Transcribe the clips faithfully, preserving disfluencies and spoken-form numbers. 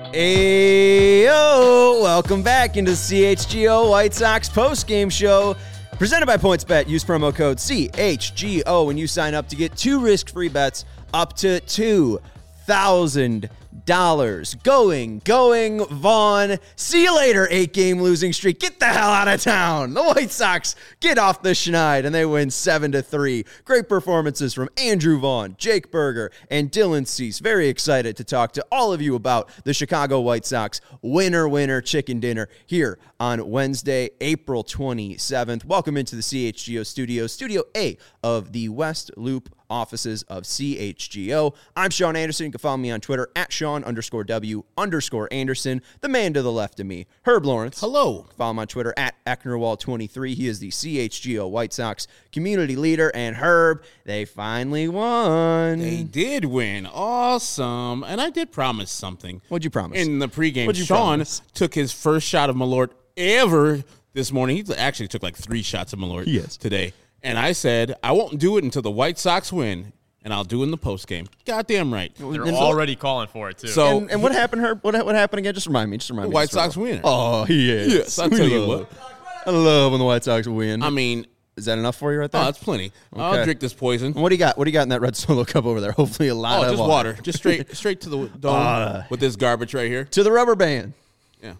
Ayo! Welcome back into the C H G O White Sox post-game show presented by PointsBet. Use promo code C H G O when you sign up to get two risk-free bets up to two thousand dollars. Going, going, Vaughn. See you later, eight-game losing streak. Get the hell out of town. The White Sox get off the schneid, and they win seven to three. Great performances from Andrew Vaughn, Jake Berger, and Dylan Cease. Very excited to talk to all of you about the Chicago White Sox winner, winner, chicken dinner here on Wednesday, April twenty-seventh. Welcome into the C H G O studio, Studio A of the West Loop offices of C H G O. I'm Sean Anderson. You can follow me on Twitter at Sean underscore W underscore Anderson. The man to the left of me, Herb Lawrence. Hello. Follow him on Twitter at Ecknerwall twenty-three. He is the C H G O White Sox community leader. And Herb, they finally won. They did win. Awesome. And I did promise something. What'd you promise? In the pregame, What'd you Sean promise? took his first shot of Malort ever this morning. He actually took like three shots of Malort Yes. today. And I said, I won't do it until the White Sox win, and I'll do it in the postgame. Goddamn right. They're And- already calling for it, too. So and, and what happened, Herb? What, what happened again? Just remind me. Just remind the me. White Just Sox remind me. winner. Oh, he is. Yes, I'll We tell you love- what. I love when the White Sox win. I mean, Is that enough for you right there? oh, that's plenty. Okay. I'll drink this poison. What do you got? What do you got in that red Solo cup over there? Hopefully a lot Oh, of just water. Just straight straight to the dome Uh, with this garbage right here. To the rubber band. Yeah.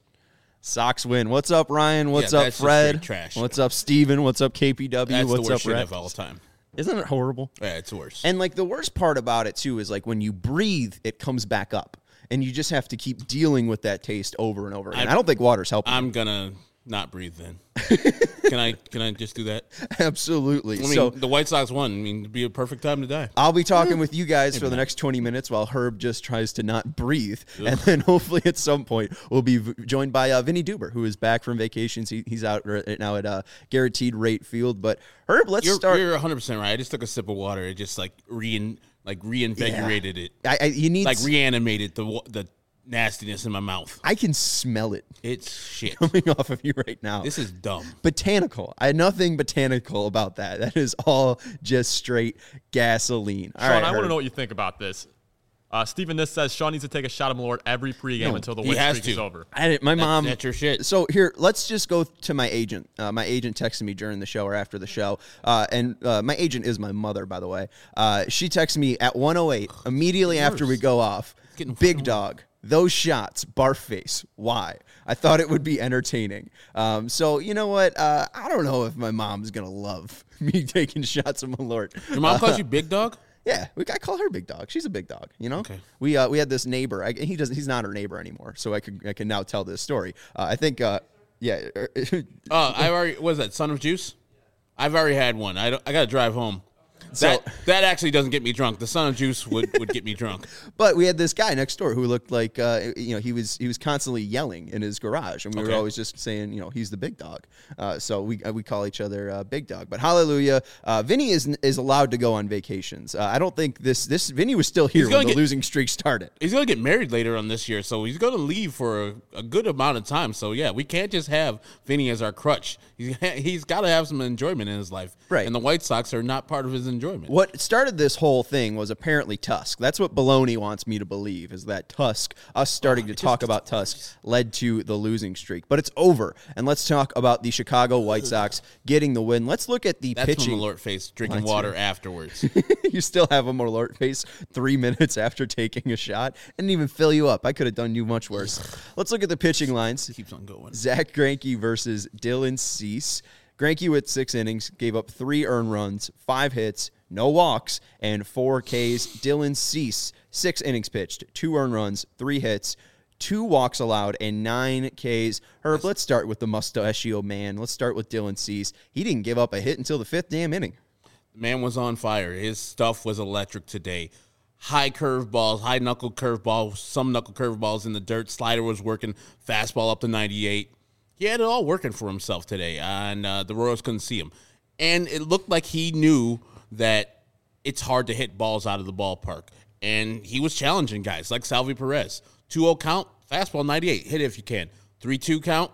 Sox win. What's up, Ryan? What's Yeah, up, that's just Fred? straight trash. What's up, Steven? What's up, K P W? That's What's the worst up, shit Rex? of all time. Isn't it horrible? Yeah, it's worse. And like the worst part about it too is like when you breathe, it comes back up, and you just have to keep dealing with that taste over and over again. I, I don't think water's helping. I'm gonna not breathe then. can I? Can I just do that? Absolutely. I mean, so the White Sox won. I mean, it'd be a perfect time to die. I'll be talking with you guys for the next twenty minutes while Herb just tries to not breathe. Ugh. And then hopefully at some point we'll be v- joined by uh, Vinny Duber, who is back from vacations. He, he's out right now at uh, Guaranteed Rate Field. But Herb, let's You're, start. You're one hundred percent right. I just took a sip of water. It just like rein, like reinvigorated Yeah. it. I, I, you need like s- reanimated the wa- the nastiness in my mouth. I can smell it It's shit. coming off of you right now. This is dumb. Botanical. I had nothing botanical about that. That is all just straight gasoline. All Sean, right, I want Herb. to know what you think about this. Uh, Stephen This says Sean needs to take a shot of Malort every pregame No, until the he win has streak is to. over. I didn't, my mom. that's your shit. So here, let's just go to my agent. Uh, my agent texted me during the show or after the show, uh, and uh, my agent is my mother, by the way. Uh, she texted me at one oh eight immediately after we go off. getting Big fucking dog. Those shots, barf face. Why? I thought it would be entertaining. Um, so you know what? Uh, I don't know if my mom's gonna love me taking shots of Malort. Your mom Uh, calls you big dog? Yeah, we I call her Big Dog. She's a big dog, you know. Okay. We uh, we had this neighbor. I, he doesn't. He's not our neighbor anymore. So I can I can now tell this story. Uh, I think. Uh, yeah. Oh, I already. What is that? Son of Juice? I've already had one. I don't, I got to drive home. That that actually doesn't get me drunk. The Son of Juice would, would get me drunk. But we had this guy next door who looked like uh, you know he was he was constantly yelling in his garage, and we Okay. were always just saying you know he's the big dog. Uh, so we uh, we call each other uh, Big Dog. But hallelujah, uh, Vinny is is allowed to go on vacations. Uh, I don't think this this Vinny was still here He's gonna when the get- losing streak started. He's going to get married later on this year, so he's going to leave for a, a good amount of time. So, yeah, we can't just have Vinny as our crutch. He's, he's got to have some enjoyment in his life. Right. And the White Sox are not part of his enjoyment. What started this whole thing was apparently Tusk. That's what Baloney wants me to believe, is that Tusk, us starting to talk about Tusk, led to the losing streak. But it's over. And let's talk about the Chicago White Sox getting the win. Let's look at the That's pitching. from Malort face, drinking That's water right. afterwards. You still have a Malort face three minutes after taking a shot. Didn't even fill you up. I could have done you much worse. Let's look at the pitching lines. Keeps on going. Zach Greinke versus Dylan Cease. Greinke with six innings, gave up three earned runs, five hits, no walks, and four Ks. Dylan Cease, six innings pitched, two earned runs, three hits, two walks allowed, and nine Ks. Herb, let's start with the mustachio man. Let's start with Dylan Cease. He didn't give up a hit until the fifth damn inning. The man was on fire. His stuff was electric today. High curve balls, high knuckle curve balls, some knuckle curve balls in the dirt. Slider was working, fastball up to ninety-eight. He had it all working for himself today, and uh, the Royals couldn't see him. And it looked like he knew that it's hard to hit balls out of the ballpark. And he was challenging guys like Salvi Perez. two oh count, fastball ninety-eight. Hit it if you can. three two count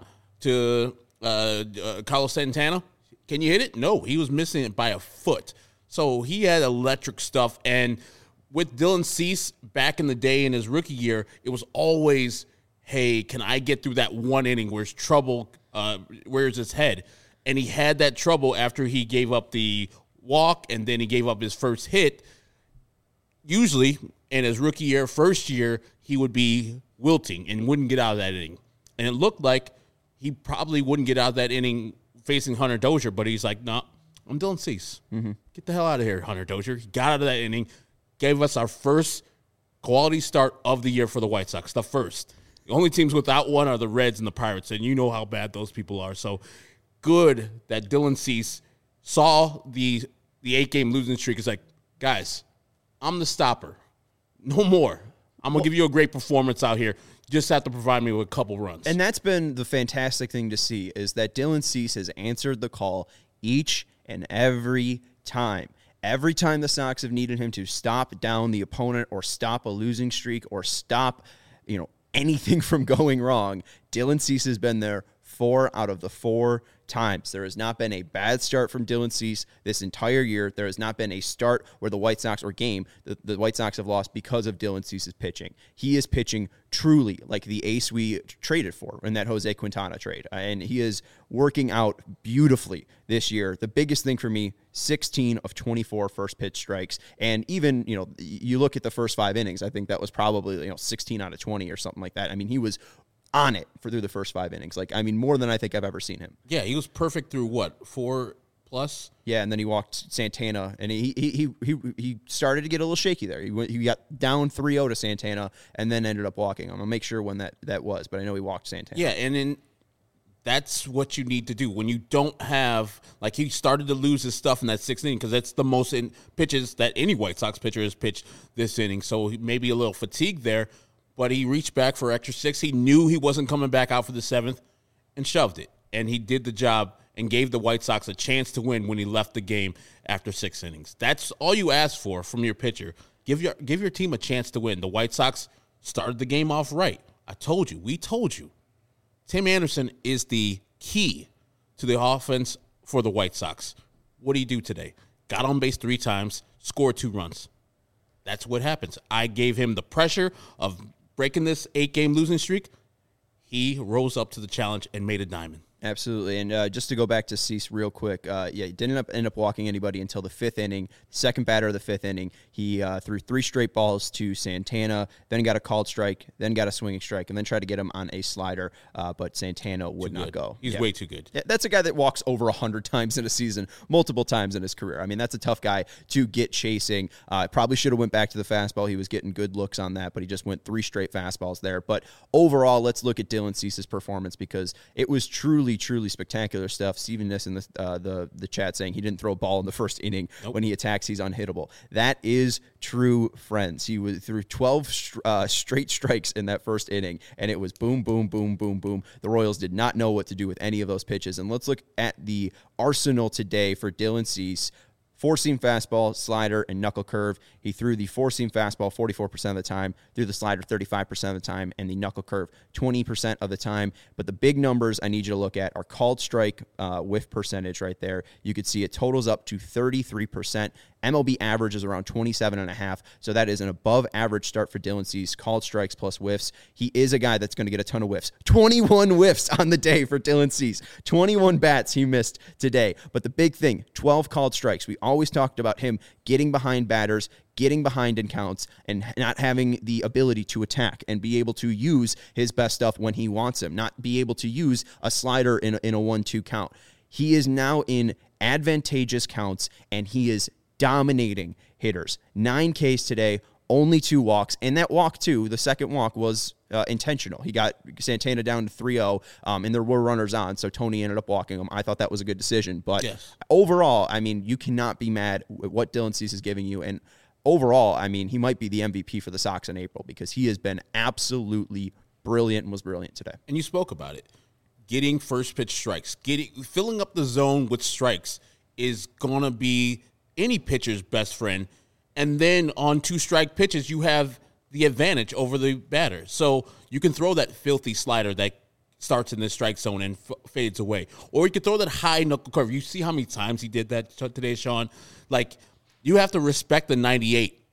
to uh, uh, Carlos Santana. Can you hit it? No, he was missing it by a foot. So he had electric stuff. And with Dylan Cease back in the day in his rookie year, it was always, hey, can I get through that one inning where's trouble, uh, where's his head? And he had that trouble after he gave up the walk and then he gave up his first hit. Usually, in his rookie year, first year, he would be wilting and wouldn't get out of that inning. And it looked like he probably wouldn't get out of that inning facing Hunter Dozier, but he's like, no, nah, I'm Dylan Cease. Mm-hmm. Get the hell out of here, Hunter Dozier. He got out of that inning, gave us our first quality start of the year for the White Sox, the first. The only teams without one are the Reds and the Pirates, and you know how bad those people are. So good that Dylan Cease saw the the eight-game losing streak. It's like, guys, I'm the stopper. No more. I'm going to well, give you a great performance out here. You just have to provide me with a couple runs. And that's been the fantastic thing to see is that Dylan Cease has answered the call each and every time. Every time the Sox have needed him to stop down the opponent or stop a losing streak or stop, you know, anything from going wrong, Dylan Cease has been there four out of the four times. There has not been a bad start from Dylan Cease this entire year. There has not been a start where the White Sox or game the, the White Sox have lost because of Dylan Cease's pitching. He is pitching truly like the ace we traded for in that Jose Quintana trade, and he is working out beautifully this year. The biggest thing for me, sixteen of twenty-four first pitch strikes, and even, you know, you look at the first five innings, I think that was probably, you know, sixteen out of twenty or something like that. I mean, he was on it for through the first five innings. Like, I mean, more than I think I've ever seen him. Yeah, he was perfect through what, four plus? Yeah, and then he walked Santana, and he he he he, he started to get a little shaky there. He went, he got down three oh to Santana, and then ended up walking. I'm gonna make sure when that, that was, but I know he walked Santana. Yeah, and then that's what you need to do when you don't have, like, he started to lose his stuff in that sixth inning because that's the most in pitches that any White Sox pitcher has pitched this inning. So maybe a little fatigue there. But he reached back for extra six. He knew he wasn't coming back out for the seventh and shoved it. And he did the job and gave the White Sox a chance to win when he left the game after six innings. That's all you ask for from your pitcher. Give your give your team a chance to win. The White Sox started the game off right. I told you. We told you. Tim Anderson is the key to the offense for the White Sox. What do you do today? Got on base three times, scored two runs. That's what happens. I gave him the pressure of breaking this eight-game losing streak. He rose up to the challenge and made a diamond. Absolutely. And uh, just to go back to Cease real quick, uh, yeah, he didn't end up, end up walking anybody until the fifth inning, second batter of the fifth inning. He uh, threw three straight balls to Santana, then got a called strike, then got a swinging strike, and then tried to get him on a slider, uh, but Santana would not go. He's yeah. way too good. Yeah, that's a guy that walks over one hundred times in a season, multiple times in his career. I mean, that's a tough guy to get chasing. Uh, probably should have went back to the fastball. He was getting good looks on that, but he just went three straight fastballs there. But overall, let's look at Dylan Cease's performance because it was truly, truly spectacular stuff. Steven Niss in the, uh, the the chat saying he didn't throw a ball in the first inning. Nope. When he attacks, he's unhittable. That is true, friends. He was through twelve uh, straight strikes in that first inning, and it was boom, boom, boom, boom, boom. The Royals did not know what to do with any of those pitches. And let's look at the arsenal today for Dylan Cease. Four-seam fastball, slider, and knuckle curve. He threw the four-seam fastball forty-four percent of the time, threw the slider thirty-five percent of the time, and the knuckle curve twenty percent of the time. But the big numbers I need you to look at are called strike uh, whiff percentage right there. You could see it totals up to thirty-three percent. M L B average is around twenty-seven and a half, so that is an above-average start for Dylan Cease. Called strikes plus whiffs. He is a guy that's going to get a ton of whiffs. twenty-one whiffs on the day for Dylan Cease. twenty-one bats he missed today. But the big thing, twelve called strikes. We always talked about him getting behind batters, getting behind in counts, and not having the ability to attack and be able to use his best stuff when he wants him, not be able to use a slider in a, in a one two count. He is now in advantageous counts, and he is dominating hitters. Nine Ks today, only two walks, and that walk, too, the second walk was uh, intentional. He got Santana down to three oh, um, and there were runners on, so Tony ended up walking him. I thought that was a good decision, but yes. Overall, I mean, you cannot be mad with what Dylan Cease is giving you, and overall, I mean, he might be the M V P for the Sox in April because he has been absolutely brilliant and was brilliant today. And you spoke about it. Getting first pitch strikes, getting filling up the zone with strikes is going to be any pitcher's best friend. And then on two strike pitches, you have the advantage over the batter. So you can throw that filthy slider that starts in the strike zone and f- fades away. Or you can throw that high knuckle curve. You see how many times he did that t- today, Sean? Like, you have to respect the ninety-eight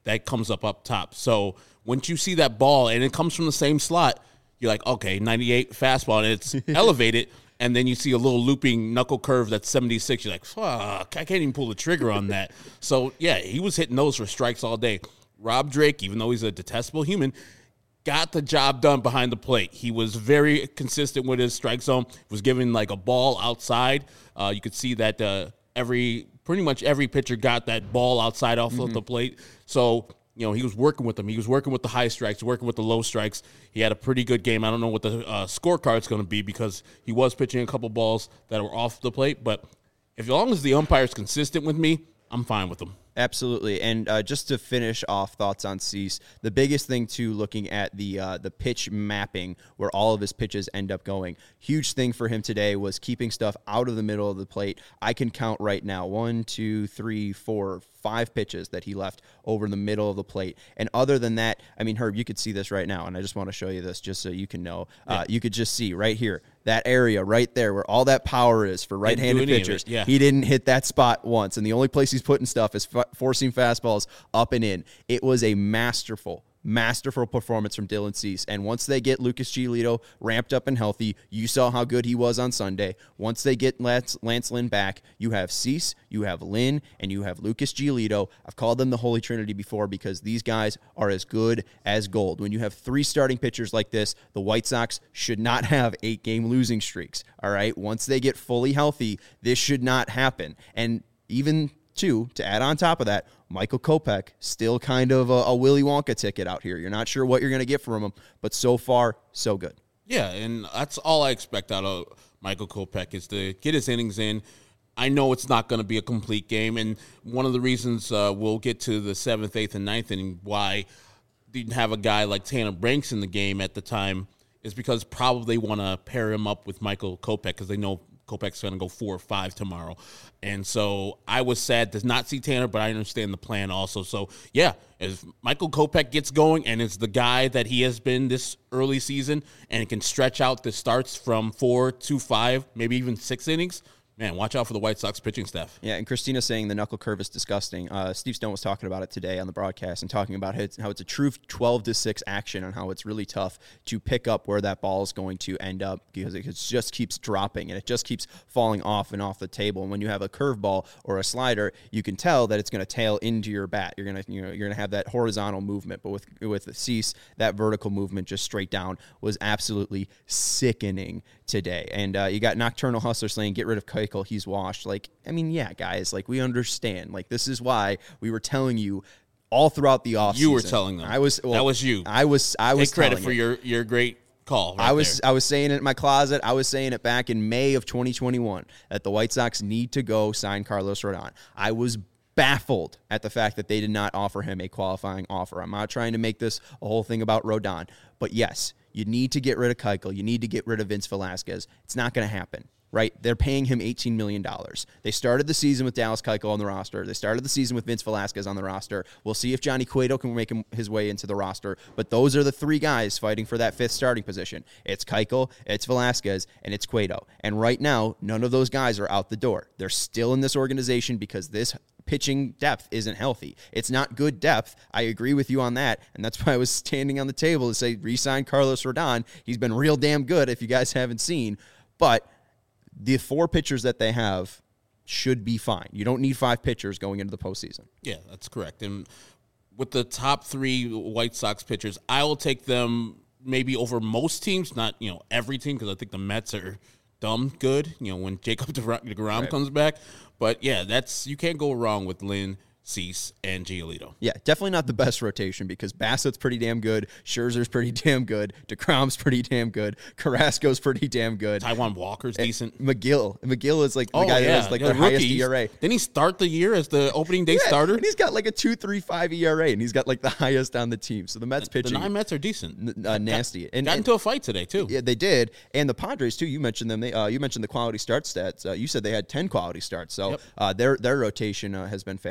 that comes up up top. So once you see that ball and it comes from the same slot, you're like, okay, ninety-eight fastball, and it's elevated. And then you see a little looping knuckle curve that's seventy-six. You're like, fuck, I can't even pull the trigger on that. So, yeah, he was hitting those for strikes all day. Rob Drake, even though he's a detestable human, got the job done behind the plate. He was very consistent with his strike zone. Was giving like a ball outside. Uh, you could see that uh, every pretty much every pitcher got that ball outside off mm-hmm. of the plate. So, you know, he was working with them. He was working with the high strikes, working with the low strikes. He had a pretty good game. I don't know what the uh, scorecard's going to be because he was pitching a couple balls that were off the plate. But if as long as the umpire's consistent with me, I'm fine with him. Absolutely. And uh, just to finish off thoughts on Cease, the biggest thing, too, looking at the uh, the pitch mapping where all of his pitches end up going, huge thing for him today was keeping stuff out of the middle of the plate. I can count right now, one, two, three, four, five pitches that he left over the middle of the plate. And other than that, I mean, Herb, you could see this right now, and I just want to show you this just so you can know. Uh, yeah. You could just see right here, that area right there where all that power is for right-handed pitchers. Yeah. He didn't hit that spot once, and the only place he's putting stuff is f- forcing fastballs up and in. It was a masterful, masterful performance from Dylan Cease. And once they get Lucas Giolito ramped up and healthy, you saw how good he was on Sunday. Once they get Lance, Lance Lynn back, you have Cease, you have Lynn, and you have Lucas Giolito. I've called them the Holy Trinity before because these guys are as good as gold. When you have three starting pitchers like this, the White Sox should not have eight-game losing streaks, all right? Once they get fully healthy, this should not happen. And even, too, to add on top of that, Michael Kopech, still kind of a, a Willy Wonka ticket out here. You're not sure what you're going to get from him, but so far, so good. Yeah, and that's all I expect out of Michael Kopech is to get his innings in. I know it's not going to be a complete game, and one of the reasons uh, we'll get to the seventh, eighth, and ninth inning why didn't have a guy like Tanner Branks in the game at the time is because probably they want to pair him up with Michael Kopech because they know Kopech's going to go four or five tomorrow. And so I was sad to not see Tanner, but I understand the plan also. So, yeah, if Michael Kopech gets going and is the guy that he has been this early season and can stretch out the starts from four to five, maybe even six innings, man, watch out for the White Sox pitching staff. Yeah, and Christina saying the knuckle curve is disgusting. Uh, Steve Stone was talking about it today on the broadcast and talking about how it's, how it's a true twelve to six action and how it's really tough to pick up where that ball is going to end up because it just keeps dropping and it just keeps falling off and off the table. And when you have a curveball or a slider, you can tell that it's going to tail into your bat. You're going to you know you're going to have that horizontal movement, but with with Cease, that vertical movement just straight down was absolutely sickening today. And uh, you got Nocturnal Hustler saying, get rid of Keuchel, he's washed. Like, I mean, yeah, guys, like, we understand. Like, this is why we were telling you all throughout the offseason. You were telling them. I was. Well, that was you. I was. I was. Take credit telling for it. your your great call. Right I was. there. I was saying it in my closet. I was saying it back in May of twenty twenty-one that the White Sox need to go sign Carlos Rodon. I was baffled at the fact that they did not offer him a qualifying offer. I'm not trying to make this a whole thing about Rodon, but yes, you need to get rid of Keuchel. You need to get rid of Vince Velasquez. It's not going to happen. Right? They're paying him eighteen million dollars. They started the season with Dallas Keuchel on the roster. They started the season with Vince Velasquez on the roster. We'll see if Johnny Cueto can make him his way into the roster. But those are the three guys fighting for that fifth starting position. It's Keuchel, it's Velasquez, and it's Cueto. And right now, none of those guys are out the door. They're still in this organization because this pitching depth isn't healthy. It's not good depth. I agree with you on that. And that's why I was standing on the table to say re-sign Carlos Rodon. He's been real damn good if you guys haven't seen. But the four pitchers that they have should be fine. You don't need five pitchers going into the postseason. Yeah, that's correct. And with the top three White Sox pitchers, I will take them maybe over most teams, not, you know, every team, because I think the Mets are dumb good, you know, when Jacob DeGrom right. comes back. But, yeah, that's you can't go wrong with Lynn, Cease, and Giolito. Yeah, definitely not the best rotation because Bassett's pretty damn good, Scherzer's pretty damn good, DeGrom's pretty damn good, Carrasco's pretty damn good. Taijuan Walker's and decent. McGill. McGill is like the oh, guy yeah. that has like yeah, the rookie. highest E R A. Didn't he start the year as the opening day yeah, starter? And he's got like a two point three five E R A, and he's got like the highest on the team. So the Mets pitching. The nine Mets are decent. N- uh, nasty. Got, and, got and, into a fight today, too. Yeah, they did. And the Padres, too, you mentioned them. They, uh, you mentioned the quality start stats. Uh, you said they had ten quality starts. So yep. uh, their, their rotation uh, has been fantastic.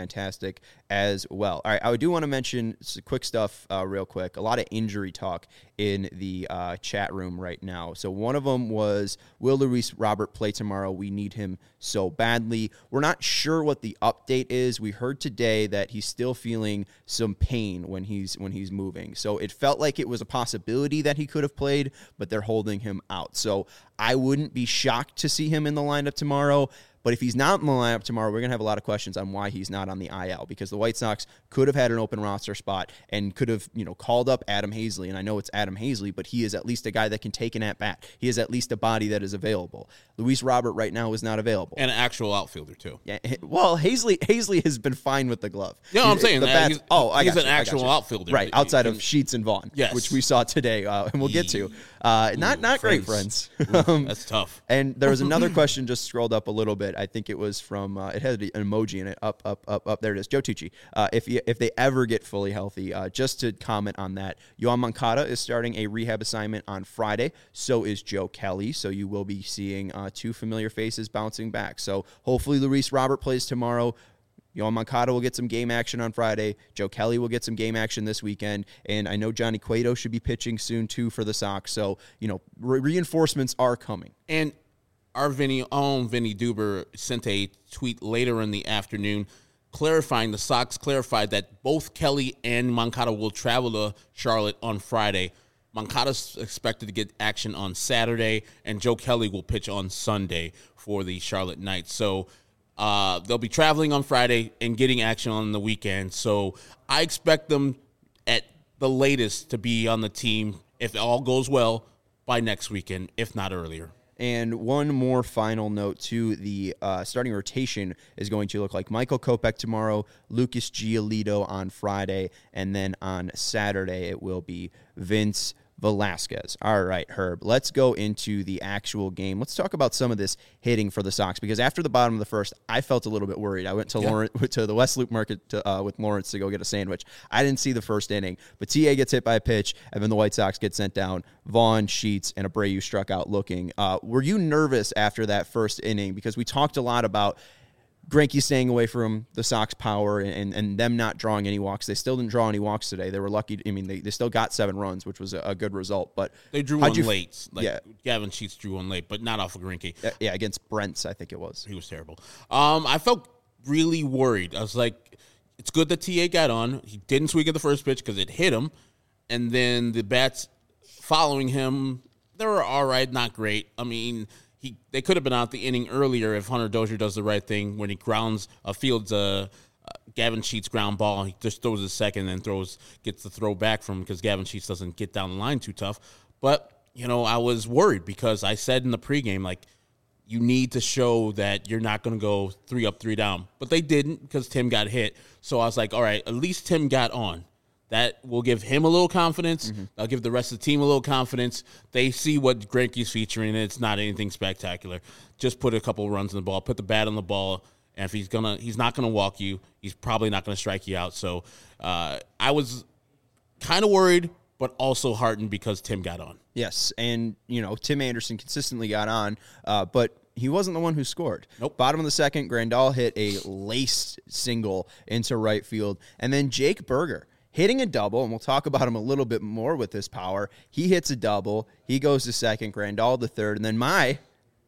fantastic as well. All right, I do want to mention some quick stuff uh, real quick. A lot of injury talk in the uh, chat room right now. So one of them was, will Luis Robert play tomorrow? We need him so badly. We're not sure what the update is. We heard today that he's still feeling some pain when he's when he's moving. So it felt like it was a possibility that he could have played, but they're holding him out. So I wouldn't be shocked to see him in the lineup tomorrow. But if he's not in the lineup tomorrow, we're going to have a lot of questions on why he's not on the I L, because the White Sox could have had an open roster spot and could have, you know, called up Adam Hazley. And I know it's Adam Hazley, but he is at least a guy that can take an at-bat. He is at least a body that is available. Luis Robert right now is not available. And an actual outfielder, too. Yeah, well, Hazley Hazley has been fine with the glove. You know what I'm saying? The bats, he's, oh, I he's got an you, actual you. outfielder. Right, outside he, of Sheets and Vaughn, yes. which we saw today, uh, and we'll get to. Uh, not Ooh, not friends. great, friends. Ooh, um, that's tough. And there was another question just scrolled up a little bit. I think it was from, uh, it had an emoji in it. Up, up, up, up. There it is. Joe Tucci. Uh, if you, if they ever get fully healthy, uh, just to comment on that, Yoan Moncada is starting a rehab assignment on Friday. So is Joe Kelly. So you will be seeing uh, two familiar faces bouncing back. So hopefully Luis Robert plays tomorrow. Yoan Moncada will get some game action on Friday. Joe Kelly will get some game action this weekend. And I know Johnny Cueto should be pitching soon, too, for the Sox. So, you know, re- reinforcements are coming. And our Vinny, own Vinny Duber sent a tweet later in the afternoon clarifying, the Sox clarified that both Kelly and Moncada will travel to Charlotte on Friday. Moncada's expected to get action on Saturday, and Joe Kelly will pitch on Sunday for the Charlotte Knights. So, Uh, they'll be traveling on Friday and getting action on the weekend. So I expect them at the latest to be on the team, if all goes well, by next weekend, if not earlier. And one more final note, too. The uh, starting rotation is going to look like Michael Kopech tomorrow, Lucas Giolito on Friday, and then on Saturday it will be Vince Velasquez. All right, Herb, let's go into the actual game. Let's talk about some of this hitting for the Sox, because after the bottom of the first, I felt a little bit worried. I went to yeah. Lawrence, to the West Loop Market to, uh, with Lawrence to go get a sandwich. I didn't see the first inning, but T A gets hit by a pitch, and then the White Sox get sent down. Vaughn, Sheets, and Abreu struck out looking. Uh, were you nervous after that first inning? Because we talked a lot about Greinke staying away from the Sox power and, and them not drawing any walks. They still didn't draw any walks today. They were lucky. I mean, they, they still got seven runs, which was a, a good result. But they drew one late. F- like yeah. Gavin Sheets drew one late, but not off of Greinke. Uh, yeah, against Brents, I think it was. He was terrible. Um, I felt really worried. I was like, it's good that T A got on. He didn't swing at the first pitch because it hit him. And then the bats following him, they were all right, not great. I mean, He, they could have been out the inning earlier if Hunter Dozier does the right thing when he grounds a uh, fields a uh, uh, Gavin Sheets ground ball. He just throws a second and throws gets the throw back from him because Gavin Sheets doesn't get down the line too tough. But you know, I was worried because I said in the pregame, like, you need to show that you're not going to go three up, three down. But they didn't because Tim got hit. So I was like, all right, at least Tim got on. That will give him a little confidence. Mm-hmm. That'll give the rest of the team a little confidence. They see what Greinke's featuring, and it's not anything spectacular. Just put a couple runs in the ball, put the bat on the ball, and if he's gonna, he's not gonna walk you. He's probably not gonna strike you out. So uh, I was kind of worried, but also heartened because Tim got on. Yes, and you know Tim Anderson consistently got on, uh, but he wasn't the one who scored. Nope. Bottom of the second, Grandal hit a laced single into right field, and then Jake Berger hitting a double, and we'll talk about him a little bit more with this power. He hits a double. He goes to second, Grandal to third, and then my,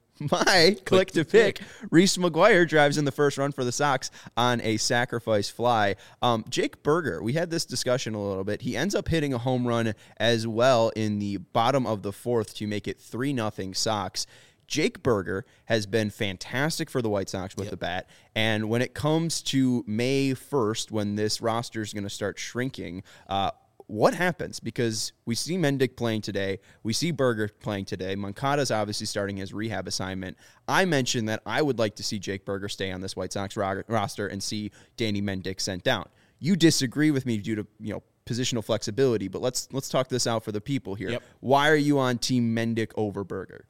my click, click to pick, pick. Reese McGuire drives in the first run for the Sox on a sacrifice fly. Um, Jake Berger, we had this discussion a little bit. He ends up hitting a home run as well in the bottom of the fourth to make it three nothing Sox. Jake Berger has been fantastic for the White Sox with yep. the bat. And when it comes to May first, when this roster is going to start shrinking, uh, what happens? Because we see Mendick playing today. We see Berger playing today. Moncada's obviously starting his rehab assignment. I mentioned that I would like to see Jake Berger stay on this White Sox ro- roster and see Danny Mendick sent down. You disagree with me due to, you know, positional flexibility, but let's let's talk this out for the people here. Yep. Why are you on Team Mendick over Berger?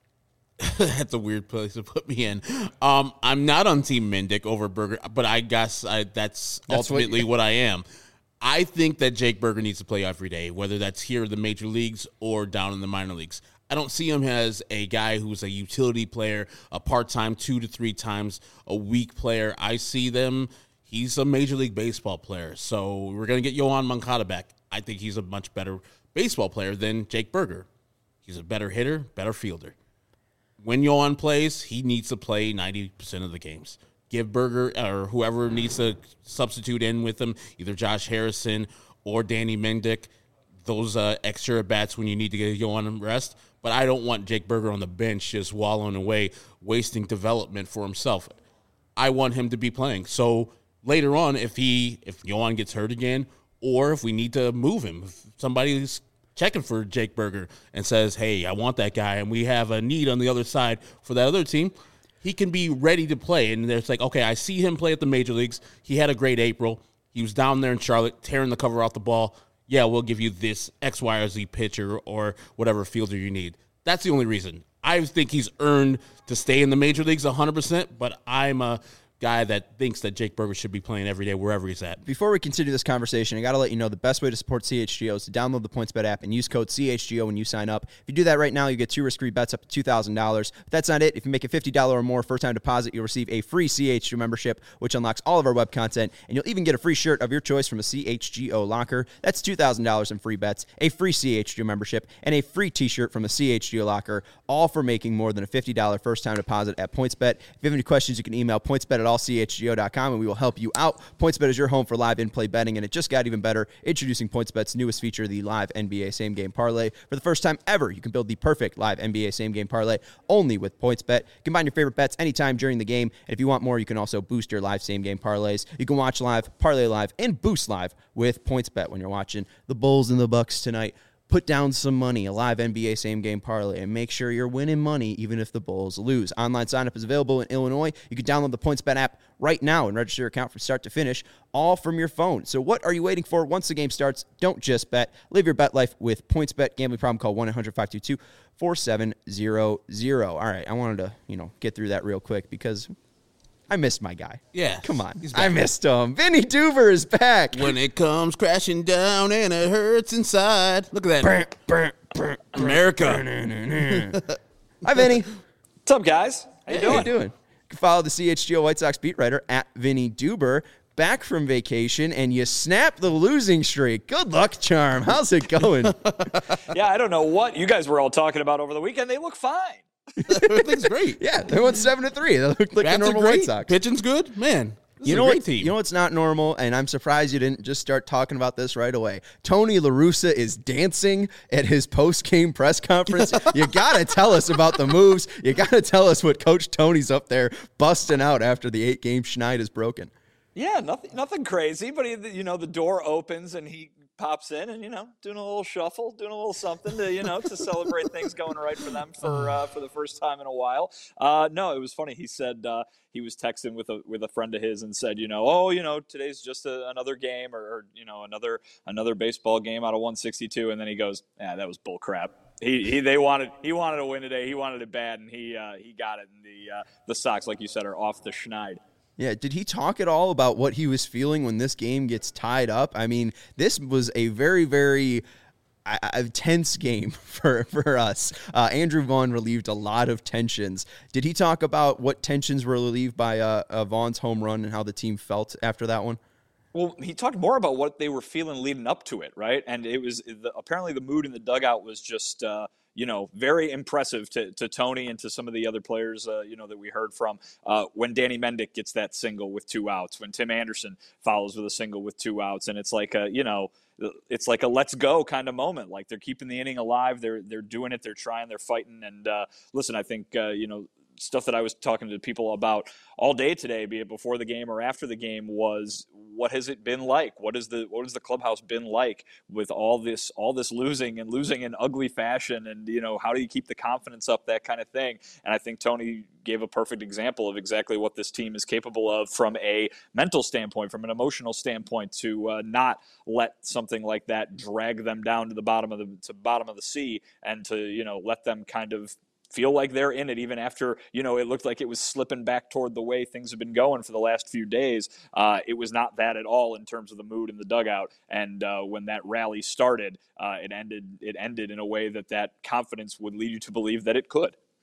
That's a weird place to put me in. Um, I'm not on Team Mendick over Berger, but I guess I, that's, that's ultimately what, what I am. I think that Jake Berger needs to play every day, whether that's here in the major leagues or down in the minor leagues. I don't see him as a guy who's a utility player, a part-time two to three times a week player. I see them. He's a Major League Baseball player, so we're going to get Yoan Moncada back. I think he's a much better baseball player than Jake Burger. He's a better hitter, better fielder. When Yoan plays, he needs to play ninety percent of the games. Give Burger or whoever needs to substitute in with him, either Josh Harrison or Danny Mendick, those uh, extra at-bats when you need to get Yoan rest. But I don't want Jake Burger on the bench just wallowing away, wasting development for himself. I want him to be playing. So later on, if he if Yoan gets hurt again, or if we need to move him, if somebody's checking for Jake Burger and says, hey, I want that guy, and we have a need on the other side for that other team, he can be ready to play. And it's like, okay, I see him play at the major leagues. He had a great April. He was down there in Charlotte tearing the cover off the ball. Yeah, we'll give you this X, Y, or Z pitcher or whatever fielder you need. That's the only reason. I think he's earned to stay in the major leagues one hundred percent, but I'm a guy that thinks that Jake Burger should be playing every day wherever he's at. Before we continue this conversation, I got to let you know the best way to support C H G O is to download the PointsBet app and use code C H G O when you sign up. If you do that right now, you get two risk-free bets up to two thousand dollars. But that's not it. If you make a fifty dollars or more first-time deposit, you'll receive a free C H G O membership, which unlocks all of our web content, and you'll even get a free shirt of your choice from a C H G O locker. That's two thousand dollars in free bets, a free C H G O membership, and a free t-shirt from a C H G O locker, all for making more than a fifty dollars first-time deposit at PointsBet. If you have any questions, you can email pointsbet at all c h g o dot com, and we will help you out. PointsBet is your home for live in-play betting, and it just got even better. Introducing PointsBet's newest feature, the live N B A same-game parlay. For the first time ever, you can build the perfect live N B A same-game parlay only with PointsBet. Combine your favorite bets anytime during the game, and if you want more, you can also boost your live same-game parlays. You can watch live, parlay live, and boost live with PointsBet when you're watching the Bulls and the Bucks tonight. Put down some money, a live N B A same-game parlay, and make sure you're winning money even if the Bulls lose. Online sign-up is available in Illinois. You can download the PointsBet app right now and register your account from start to finish, all from your phone. So what are you waiting for? Once the game starts, don't just bet. Live your bet life with PointsBet. Gambling problem, call one eight hundred five two two four seven zero zero. All right, I wanted to, you know, get through that real quick because I missed my guy. Yeah. Come on. I missed him. Vinny Duber is back. When it comes crashing down and it hurts inside. Look at that. Burr, burr, burr, America. Hi, Vinny. What's up, guys? How you Hey, doing? How you doing? You can follow the C H G O White Sox beat writer at Vinny Duber. Back from vacation, and you snap the losing streak. Good luck, Charm. How's it going? Yeah, I don't know what you guys were all talking about over the weekend. They look fine. Everything's great. Yeah, they went seven to three. They look like Bats the normal are great. White Sox. Pitching's good. Man, this You is know a great what? team. You know what's not normal, and I'm surprised you didn't just start talking about this right away. Tony La Russa is dancing at his post-game press conference. You got to tell us about the moves. You got to tell us what Coach Tony's up there busting out after the eight-game schneid is broken. Yeah, nothing, nothing crazy. But he, you know, the door opens and he pops in, and you know, doing a little shuffle, doing a little something to, you know, to celebrate things going right for them for uh, for the first time in a while. Uh, no, it was funny. He said uh, he was texting with a with a friend of his and said, you know, oh, you know, today's just a, another game, or, or you know, another another baseball game out of one sixty-two, and then he goes, yeah, that was bull crap. He, he they wanted he wanted to win today. He wanted it bad, and he uh, he got it. And the uh, the Sox, like you said, are off the schneid. Yeah, did he talk at all about what he was feeling when this game gets tied up? I mean, this was a very, very uh, uh, tense game for, for us. Uh, Andrew Vaughn relieved a lot of tensions. Did he talk about what tensions were relieved by uh, uh, Vaughn's home run and how the team felt after that one? Well, he talked more about what they were feeling leading up to it, right? And it was the, apparently the mood in the dugout was just, uh, you know, very impressive to, to Tony and to some of the other players, uh, you know, that we heard from. Uh, when Danny Mendick gets that single with two outs, when Tim Anderson follows with a single with two outs, and it's like a, you know, it's like a let's go kind of moment. Like they're keeping the inning alive, they're they're doing it, they're trying, they're fighting. And uh, listen, I think uh, you know. Stuff that I was talking to people about all day today, be it before the game or after the game, was what has it been like? What is the what has the clubhouse been like with all this all this losing and losing in ugly fashion? And you know, how do you keep the confidence up? That kind of thing. And I think Tony gave a perfect example of exactly what this team is capable of from a mental standpoint, from an emotional standpoint, to uh, not let something like that drag them down to the bottom of the to bottom of the sea, and to you know let them kind of feel like they're in it, even after, you know, it looked like it was slipping back toward the way things have been going for the last few days. Uh, it was not that at all in terms of the mood in the dugout. And uh, when that rally started, uh, it ended. It ended in a way that that confidence would lead you to believe that it could.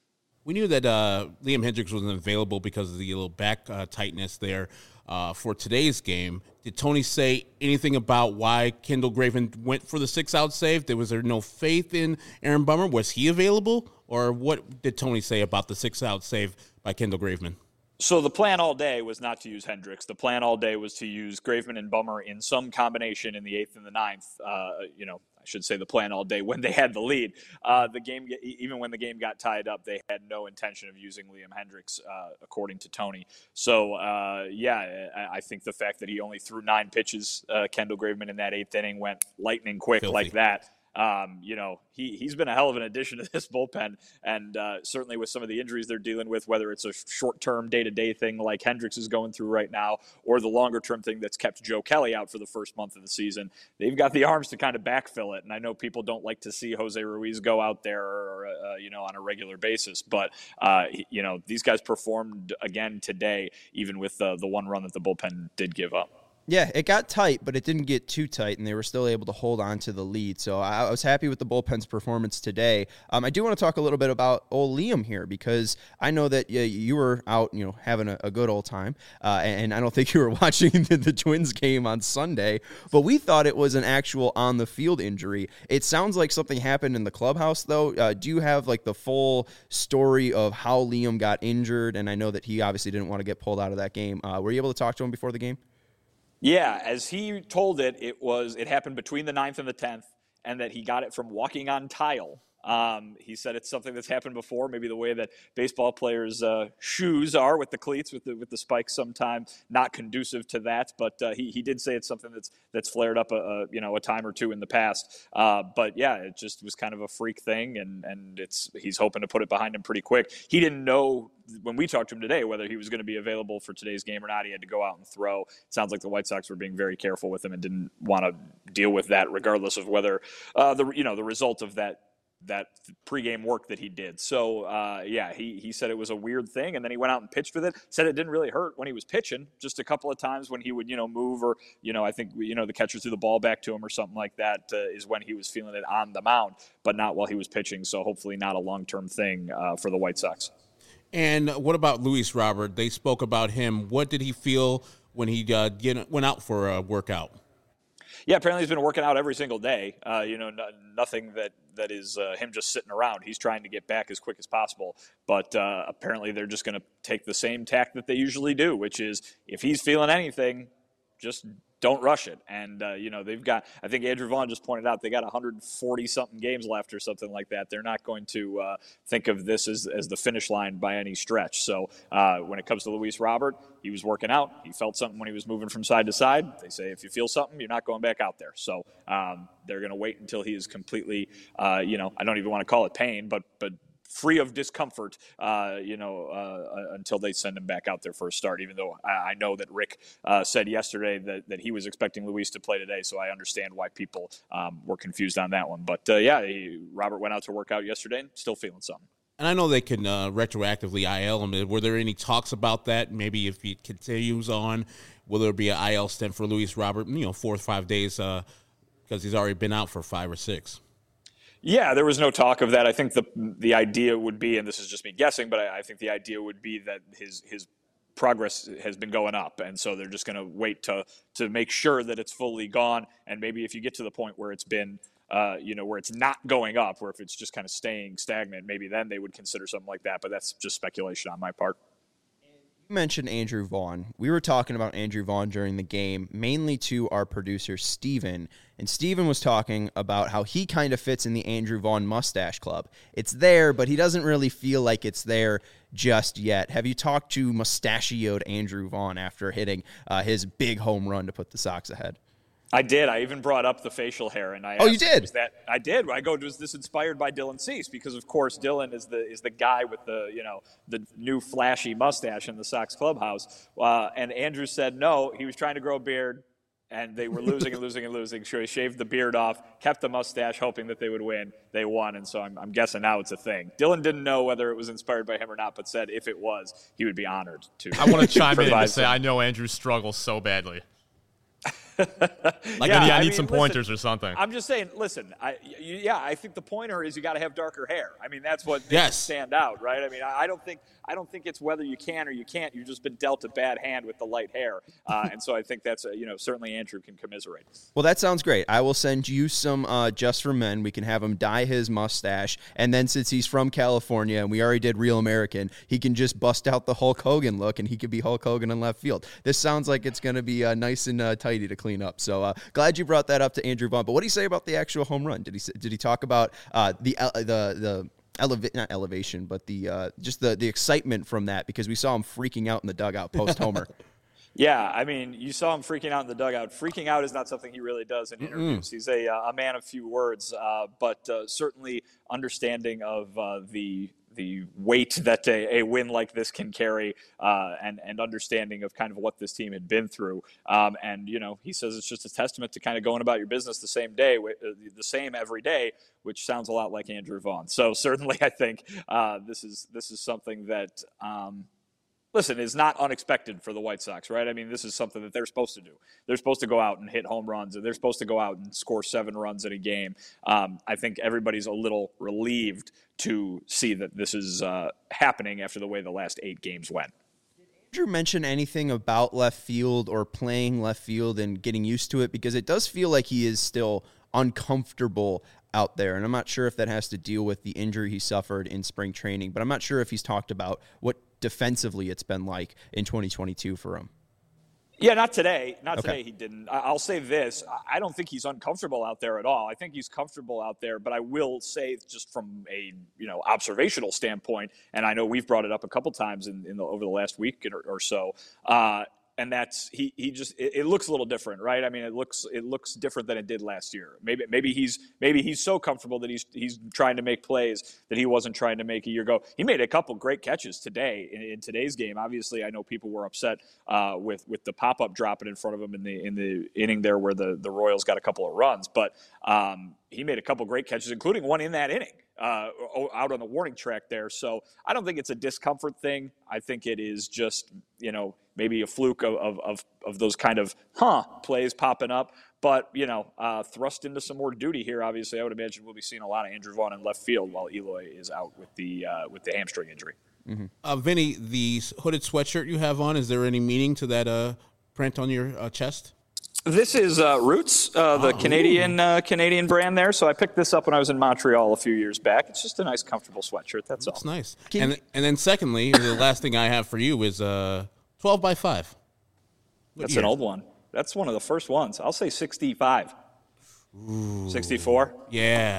We knew that uh, Liam Hendriks wasn't available because of the little back uh, tightness there uh, for today's game. Did Tony say anything about why Kendall Graveman went for the six-out save? Was there no faith in Aaron Bummer? Was he available? Or what did Tony say about the six-out save by Kendall Graveman? So the plan all day was not to use Hendriks. The plan all day was to use Graveman and Bummer in some combination in the eighth and the ninth. Uh, you know, I should say the plan all day when they had the lead. Uh, the game, even when the game got tied up, they had no intention of using Liam Hendriks, uh, according to Tony. So, uh, yeah, I, I think the fact that he only threw nine pitches, uh, Kendall Graveman in that eighth inning went lightning quick Filthy. like that. Um, you know, he, he's been a hell of an addition to this bullpen, and uh, certainly with some of the injuries they're dealing with, whether it's a short-term, day-to-day thing like Hendriks is going through right now, or the longer-term thing that's kept Joe Kelly out for the first month of the season, they've got the arms to kind of backfill it. And I know people don't like to see Jose Ruiz go out there, or, uh, you know, on a regular basis, but uh, you know, these guys performed again today, even with uh, the one run that the bullpen did give up. Yeah, it got tight, but it didn't get too tight, and they were still able to hold on to the lead. So I was happy with the bullpen's performance today. Um, I do want to talk a little bit about old Liam here, because I know that uh, you were out, you know, having a, a good old time, uh, and I don't think you were watching the, the Twins game on Sunday, but we thought it was an actual on-the-field injury. It sounds like something happened in the clubhouse, though. Uh, do you have, like, the full story of how Liam got injured? And I know that he obviously didn't want to get pulled out of that game. Uh, were you able to talk to him before the game? Yeah, as he told it, it was it happened between the ninth and the tenth, and that he got it from walking on tile. Um, he said it's something that's happened before, maybe the way that baseball players' uh, shoes are with the cleats, with the with the spikes, sometimes not conducive to that. But uh, he he did say it's something that's that's flared up a, a you know a time or two in the past. Uh, but yeah, it just was kind of a freak thing, and and it's he's hoping to put it behind him pretty quick. He didn't know when we talked to him today whether he was going to be available for today's game or not. He had to go out and throw. It sounds like the White Sox were being very careful with him and didn't want to deal with that, regardless of whether uh, the you know the result of that. that pregame work that he did. So, uh, yeah, he, he said it was a weird thing, and then he went out and pitched with it, said it didn't really hurt when he was pitching, just a couple of times when he would, you know, move or, you know, I think, you know, the catcher threw the ball back to him or something like that uh, is when he was feeling it on the mound, but not while he was pitching. So hopefully not a long-term thing uh, for the White Sox. And what about Luis Robert? They spoke about him. What did he feel when he uh, get, went out for a workout? Yeah, apparently he's been working out every single day. Uh, you know, no, nothing that, that is uh, him just sitting around. He's trying to get back as quick as possible. But uh, apparently they're just going to take the same tack that they usually do, which is if he's feeling anything, just don't rush it. And, uh, you know, they've got, I think Andrew Vaughn just pointed out, they got one hundred forty something games left or something like that. They're not going to uh, think of this as, as the finish line by any stretch. So uh, when it comes to Luis Robert, he was working out. He felt something when he was moving from side to side. They say if you feel something, you're not going back out there. So um, they're going to wait until he is completely, uh, you know, I don't even want to call it pain, but but free of discomfort, uh, you know, uh, until they send him back out there for a start, even though I, I know that Rick uh, said yesterday that, that he was expecting Luis to play today, so I understand why people um, were confused on that one. But, uh, yeah, he, Robert went out to work out yesterday and still feeling something. And I know they can uh, retroactively I L him. Were there any talks about that? Maybe if he continues on, will there be an I L stint for Luis Robert, you know, four or five days uh, because he's already been out for five or six? Yeah, there was no talk of that. I think the the idea would be, and this is just me guessing, but I, I think the idea would be that his his progress has been going up, and so they're just going to wait to to make sure that it's fully gone. And maybe if you get to the point where it's been, uh, you know, where it's not going up, or if it's just kind of staying stagnant, maybe then they would consider something like that. But that's just speculation on my part. You mentioned Andrew Vaughn. We were talking about Andrew Vaughn during the game, mainly to our producer, Steven. And Steven was talking about how he kind of fits in the Andrew Vaughn mustache club. It's there, but he doesn't really feel like it's there just yet. Have you talked to mustachioed Andrew Vaughn after hitting uh, his big home run to put the Sox ahead? I did. I even brought up the facial hair, and I oh, you asked, did? Was that I did. I go, was this inspired by Dylan Cease? Because of course Dylan is the is the guy with the you know the new flashy mustache in the Sox clubhouse. Uh, and Andrew said no. He was trying to grow a beard, and they were losing and losing and losing. So he shaved the beard off, kept the mustache, hoping that they would win. They won, and so I'm, I'm guessing now it's a thing. Dylan didn't know whether it was inspired by him or not, but said if it was, he would be honored to. I want to chime in and provide say some- I know Andrew struggles so badly. Like, Yeah, maybe I I need mean, some listen, pointers or something. I'm just saying, listen, I, you, yeah, I think the pointer is you got to have darker hair. I mean, that's what makes Yes. it stand out, right? I mean, I, I don't think I don't think it's whether you can or you can't. You've just been dealt a bad hand with the light hair, uh, and so I think that's a, you know certainly Andrew can commiserate. Well, that sounds great. I will send you some uh, Just for Men. We can have him dye his mustache, and then since he's from California and we already did Real American, he can just bust out the Hulk Hogan look, and he could be Hulk Hogan in left field. This sounds like it's going to be uh, nice and uh, tidy to clean up. So uh, glad you brought that up to Andrew Vaughn. But what did he say about the actual home run? Did he did he talk about uh, the uh, the the Eleva- not elevation, but the uh, just the the excitement from that, because we saw him freaking out in the dugout post homer. Yeah, I mean, you saw him freaking out in the dugout. Freaking out is not something he really does in interviews. Mm-mm. He's a a man of few words, uh, but uh, certainly understanding of uh, the the weight that a, a win like this can carry, uh, and and understanding of kind of what this team had been through. Um, and you know, he says it's just a testament to kind of going about your business the same day, the same every day, which sounds a lot like Andrew Vaughn. So certainly, I think uh, this is this is something that. Um, Listen, is not unexpected for the White Sox, right? I mean, this is something that they're supposed to do. They're supposed to go out and hit home runs, and they're supposed to go out and score seven runs in a game. Um, I think everybody's a little relieved to see that this is uh, happening after the way the last eight games went. Did you mention anything about left field or playing left field and getting used to it? Because it does feel like he is still uncomfortable out there, and I'm not sure if that has to deal with the injury he suffered in spring training, but I'm not sure if he's talked about what defensively it's been like in twenty twenty-two for him. Yeah, not today. Not Okay. today he didn't. I'll say this. I don't think he's uncomfortable out there at all. I think he's comfortable out there, but I will say just from a, you know, observational standpoint, and I know we've brought it up a couple times in, in the, over the last week or, or so, uh, and that's he he just it, it looks a little different, right? I mean, it looks it looks different than it did last year. Maybe maybe he's maybe he's so comfortable that he's he's trying to make plays that he wasn't trying to make a year ago. He made a couple great catches today in, in today's game. Obviously, I know people were upset uh, with with the pop up dropping in front of him in the in the inning there where the the Royals got a couple of runs, but um, he made a couple great catches, including one in that inning. Uh, out on the warning track there. So I don't think it's a discomfort thing. I think it is just, you know, maybe a fluke of, of, of, of those kind of, huh, plays popping up. But, you know, uh, thrust into some more duty here, obviously, I would imagine we'll be seeing a lot of Andrew Vaughn in left field while Eloy is out with the uh, with the hamstring injury. Mm-hmm. Uh, Vinny, the hooded sweatshirt you have on, is there any meaning to that uh, print on your uh, chest? This is uh, Roots, uh, the oh, Canadian uh, Canadian brand there. So I picked this up when I was in Montreal a few years back. It's just a nice, comfortable sweatshirt. That's That's all. nice. Can And you- and then secondly, the last thing I have for you is uh, twelve by five. What That's year? an old one. That's one of the first ones. I'll say sixty-five. sixty-four. Yeah.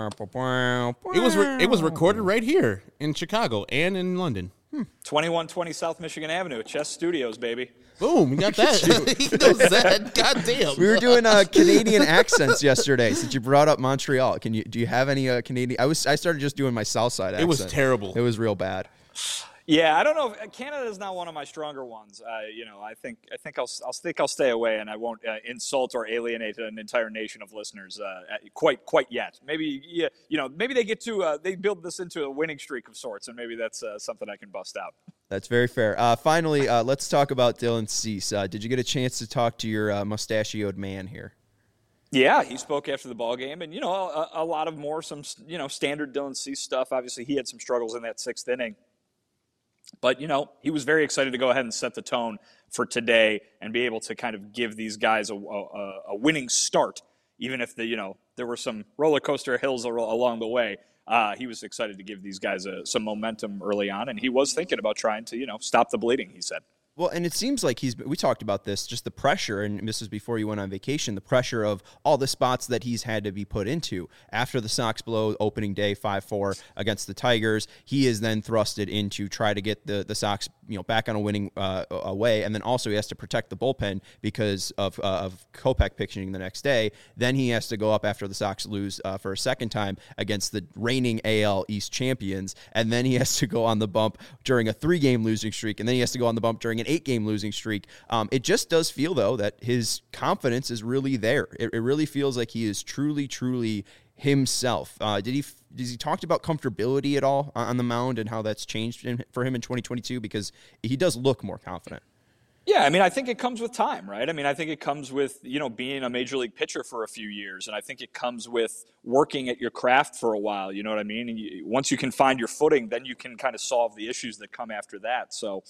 It It was re- it was recorded right here in Chicago and in London. twenty-one twenty South Michigan Avenue, Chess Studios, baby. Boom, you got that. He knows that. God damn. We were doing uh, Canadian accents yesterday. Since you brought up Montreal, can you do you have any uh, Canadian? I was I started just doing my South Side accent. It was terrible. It was real bad. Yeah, I don't know. If, Canada is not one of my stronger ones. Uh, you know, I think I think I'll I'll think I'll stay away, and I won't uh, insult or alienate an entire nation of listeners uh, quite quite yet. Maybe yeah, you know, maybe they get to uh, they build this into a winning streak of sorts, and maybe that's uh, something I can bust out. That's very fair. Uh, finally, uh, let's talk about Dylan Cease. Uh, did you get a chance to talk to your uh, mustachioed man here? Yeah, he spoke after the ball game, and you know, a, a lot of more some you know standard Dylan Cease stuff. Obviously, he had some struggles in that sixth inning. But, you know, he was very excited to go ahead and set the tone for today and be able to kind of give these guys a, a, a winning start, even if, the you know, there were some roller coaster hills along the way. Uh, he was excited to give these guys a, some momentum early on, and he was thinking about trying to, you know, stop the bleeding, he said. Well, and it seems like he's, we talked about this, just the pressure, and this was before you went on vacation, the pressure of all the spots that he's had to be put into. After the Sox blow opening day five four against the Tigers, he is then thrusted into try to get the, the Sox, you know, back on a winning uh, away, and then also he has to protect the bullpen because of, uh, of Kopech pitching the next day. Then he has to go up after the Sox lose uh, for a second time against the reigning A L East champions, and then he has to go on the bump during a three-game losing streak, and then he has to go on the bump during an eight-game losing streak. Um, it just does feel, though, that his confidence is really there. It, it really feels like he is truly, truly himself. Uh, did he Does he talked about comfortability at all on the mound and how that's changed in, for him in twenty twenty-two? Because he does look more confident. Yeah, I mean, I think it comes with time, right? I mean, I think it comes with, you know, being a major league pitcher for a few years. And I think it comes with working at your craft for a while, you know what I mean? And you, once you can find your footing, then you can kind of solve the issues that come after that. So,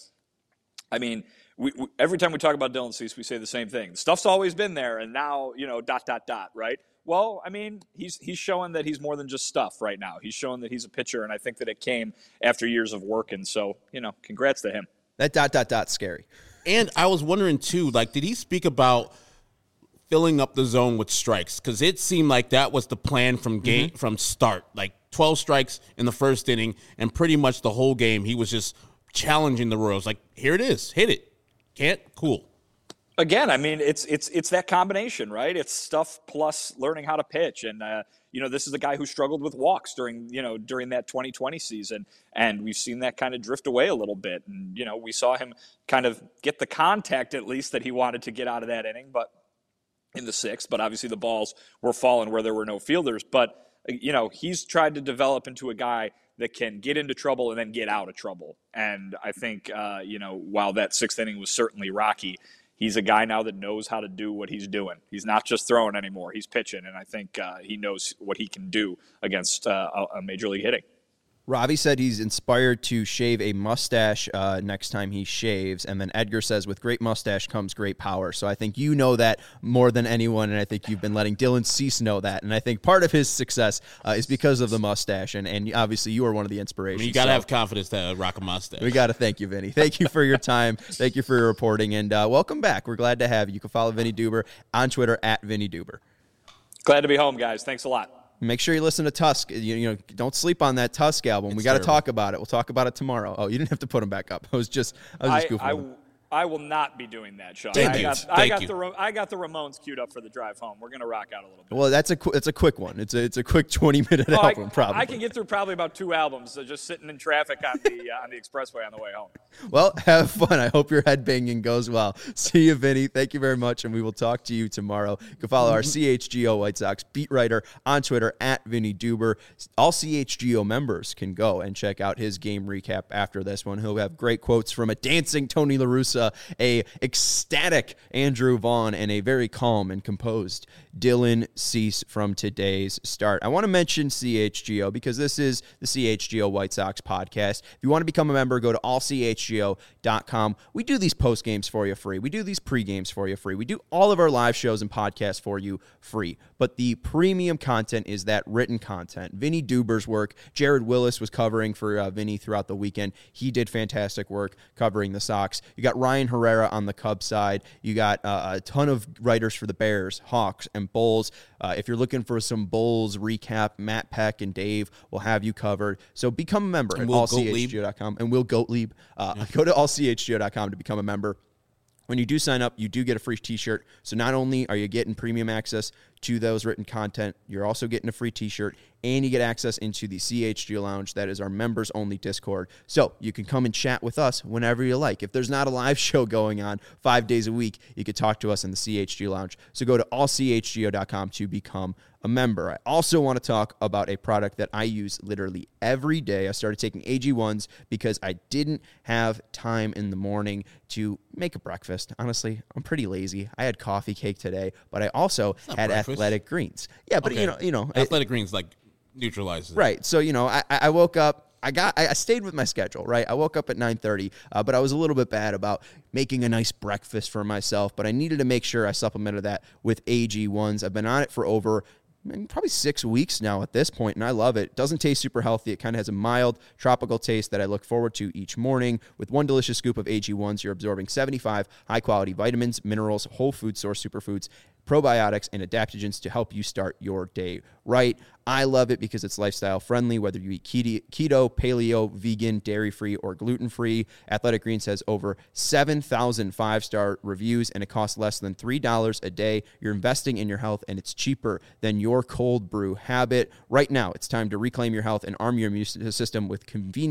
I mean, we, we, every time we talk about Dylan Cease, we say the same thing. Stuff's always been there, and now, you know, dot, dot, dot, right? Well, I mean, he's he's showing that he's more than just stuff right now. He's showing that he's a pitcher, and I think that it came after years of work. And so, you know, congrats to him. That dot, dot, dot's scary. And I was wondering, too, like, did he speak about filling up the zone with strikes? Because it seemed like that was the plan from game mm-hmm. from start. Like, twelve strikes in the first inning, and pretty much the whole game he was just challenging the Royals. Like, here it is. Hit it. Can't? Cool. Again, I mean, it's it's it's that combination, right? It's stuff plus learning how to pitch. And, uh, you know, this is a guy who struggled with walks during, you know, during that twenty twenty season. And we've seen that kind of drift away a little bit. And, you know, we saw him kind of get the contact at least that he wanted to get out of that inning, but in the sixth. But obviously the balls were falling where there were no fielders. But, you know, he's tried to develop into a guy that can get into trouble and then get out of trouble. And I think, uh, you know, while that sixth inning was certainly rocky, he's a guy now that knows how to do what he's doing. He's not just throwing anymore. He's pitching, and I think uh, he knows what he can do against uh, a major league hitting. Robbie said he's inspired to shave a mustache uh, next time he shaves. And then Edgar says, with great mustache comes great power. So I think you know that more than anyone, and I think you've been letting Dylan Cease know that. And I think part of his success uh, is because of the mustache. And, and obviously you are one of the inspirations. I mean, you got to so have confidence to rock a mustache. We got to thank you, Vinny. Thank you for your time. Thank you for your reporting. And uh, welcome back. We're glad to have you. You can follow Vinny Duber on Twitter at Vinny Duber. Glad to be home, guys. Thanks a lot. Make sure you listen to Tusk. You, you know, don't sleep on that Tusk album. It's we got to terrible. talk about it. We'll talk about it tomorrow. Oh, you didn't have to put them back up. I was just, I was just I, goofing. I, I will not be doing that, Sean. Thank I you. got, I Thank got you. the I got the Ramones queued up for the drive home. We're gonna rock out a little bit. Well, that's a qu- it's a quick one. It's a it's a quick twenty minute Oh, album, I, probably. I can get through probably about two albums uh, just sitting in traffic on the uh, on the expressway on the way home. Well, have fun. I hope your headbanging goes well. See you, Vinny. Thank you very much, and we will talk to you tomorrow. You can follow our C H G O White Sox beat writer on Twitter at Vinny Duber. All C H G O members can go and check out his game recap after this one. He'll have great quotes from a dancing Tony La Russa, a ecstatic Andrew Vaughn, and a very calm and composed Dylan Cease from today's start. I want to mention C H G O because this is the C H G O White Sox podcast. If you want to become a member, go to all c h g o dot com. We do these post games for you free. We do these pre games for you free. We do all of our live shows and podcasts for you free. But the premium content is that written content. Vinny Duber's work. Jared Willis was covering for uh, Vinny throughout the weekend. He did fantastic work covering the Sox. You got Ryan Herrera on the Cubs side. You got uh, a ton of writers for the Bears, Hawks, and Bulls. Uh, if you're looking for some Bulls recap, Matt Peck and Dave will have you covered. So become a member And at Will all c h g o dot com. And Will Gottlieb. Uh, yeah. Go to all c h g o dot com to become a member. When you do sign up, you do get a free t-shirt. So not only are you getting premium access to those written content, you're also getting a free t-shirt, and you get access into the C H G O Lounge. That is our members-only Discord. So you can come and chat with us whenever you like. If there's not a live show going on five days a week, you can talk to us in the C H G O Lounge. So go to all c h g o dot com to become a member. I also want to talk about a product that I use literally every day. I started taking A G ones because I didn't have time in the morning to make a breakfast. Honestly, I'm pretty lazy. I had coffee cake today, but I also had breakfast. Athletic Greens. Yeah, but Okay. you know, you know, Athletic Greens like neutralizes it. right. So, you know, I, I woke up, I got, I stayed with my schedule, right? I woke up at nine thirty, uh, but I was a little bit bad about making a nice breakfast for myself, but I needed to make sure I supplemented that with A G ones. I've been on it for over probably six weeks now at this point, and I love it. It doesn't taste super healthy. It kind of has a mild tropical taste that I look forward to each morning. With one delicious scoop of A G ones, you're absorbing seventy-five high-quality vitamins, minerals, whole food source superfoods, probiotics, and adaptogens to help you start your day right. I love it because it's lifestyle friendly, whether you eat keto, paleo, vegan, dairy-free, or gluten-free. Athletic Greens has over seven thousand five-star reviews, and it costs less than three dollars a day. You're investing in your health, and it's cheaper than your cold brew habit. Right now, it's time to reclaim your health and arm your immune system with convenient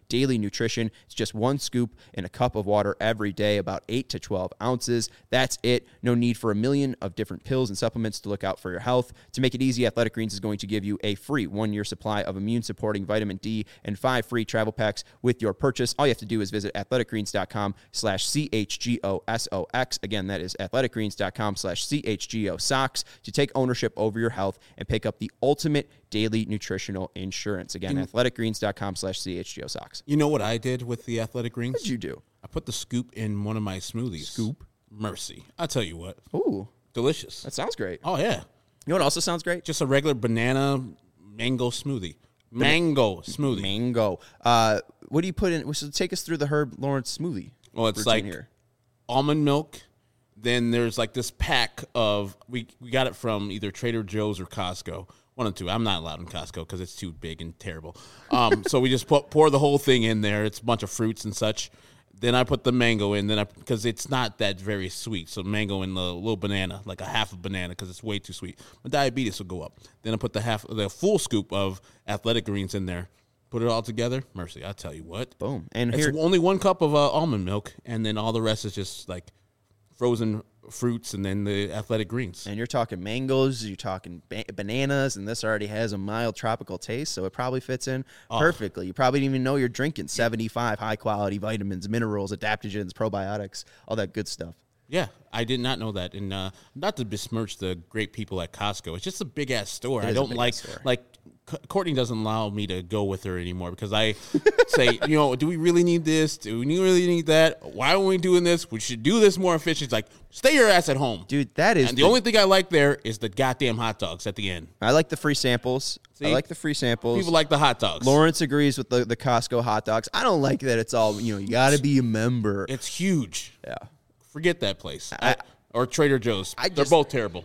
daily nutrition. It's just one scoop in a cup of water every day, about eight to twelve ounces. That's it. No need for a million of different pills and supplements to look out for your health. To make it easy, Athletic Greens is going to give you a free one-year supply of immune-supporting vitamin D and five free travel packs with your purchase. All you have to do is visit athleticgreens.com slash C-H-G-O-S-O-X. Again, that is athleticgreens.com slash C-H-G-O-SOX to take ownership over your health and pick up the ultimate daily nutritional insurance. Again, mm. athleticgreens.com slash C-H-G-O-SOX. You know what I did with the Athletic Greens? What did you do? I put the scoop in one of my smoothies. Scoop? Mercy. I'll tell you what. Ooh. Delicious. That sounds great. Oh, yeah. You know what also sounds great? Just a regular banana mango smoothie. Mango smoothie. Mango. Uh, what do you put in? So take us through the Herb Lawrence smoothie. Well, it's like here. Almond milk. Then there's like this pack of, we, we got it from either Trader Joe's or Costco. One and two. I'm not allowed in Costco because it's too big and terrible. Um, so we just put, pour the whole thing in there. It's a bunch of fruits and such. Then I put the mango in, then I because it's not that very sweet. So mango and the little banana, like a half a banana, because it's way too sweet. My diabetes will go up. Then I put the half, the full scoop of Athletic Greens in there. Put it all together. Mercy, I tell you what. Boom. And it's here, only one cup of uh, almond milk, and then all the rest is just like frozen fruits and then the Athletic Greens. And you're talking mangoes, you're talking ba- bananas, and this already has a mild tropical taste, so it probably fits in oh. perfectly. You probably didn't even know you're drinking seventy-five high-quality vitamins, minerals, adaptogens, probiotics, all that good stuff. Yeah, I did not know that. And uh, not to besmirch the great people at Costco. It's just a big-ass store. I don't like, like, Courtney doesn't allow me to go with her anymore because I say, you know, do we really need this? Do we really need that? Why are we doing this? We should do this more efficient. It's like, stay your ass at home. Dude, that is... And the, the only thing I like there is the goddamn hot dogs at the end. I like the free samples. See? I like the free samples. People like the hot dogs. Lawrence agrees with the, the Costco hot dogs. I don't like that it's all, you know, you got to be a member. It's huge. Yeah. Forget that place. I, I, or Trader Joe's. I They're just, both terrible.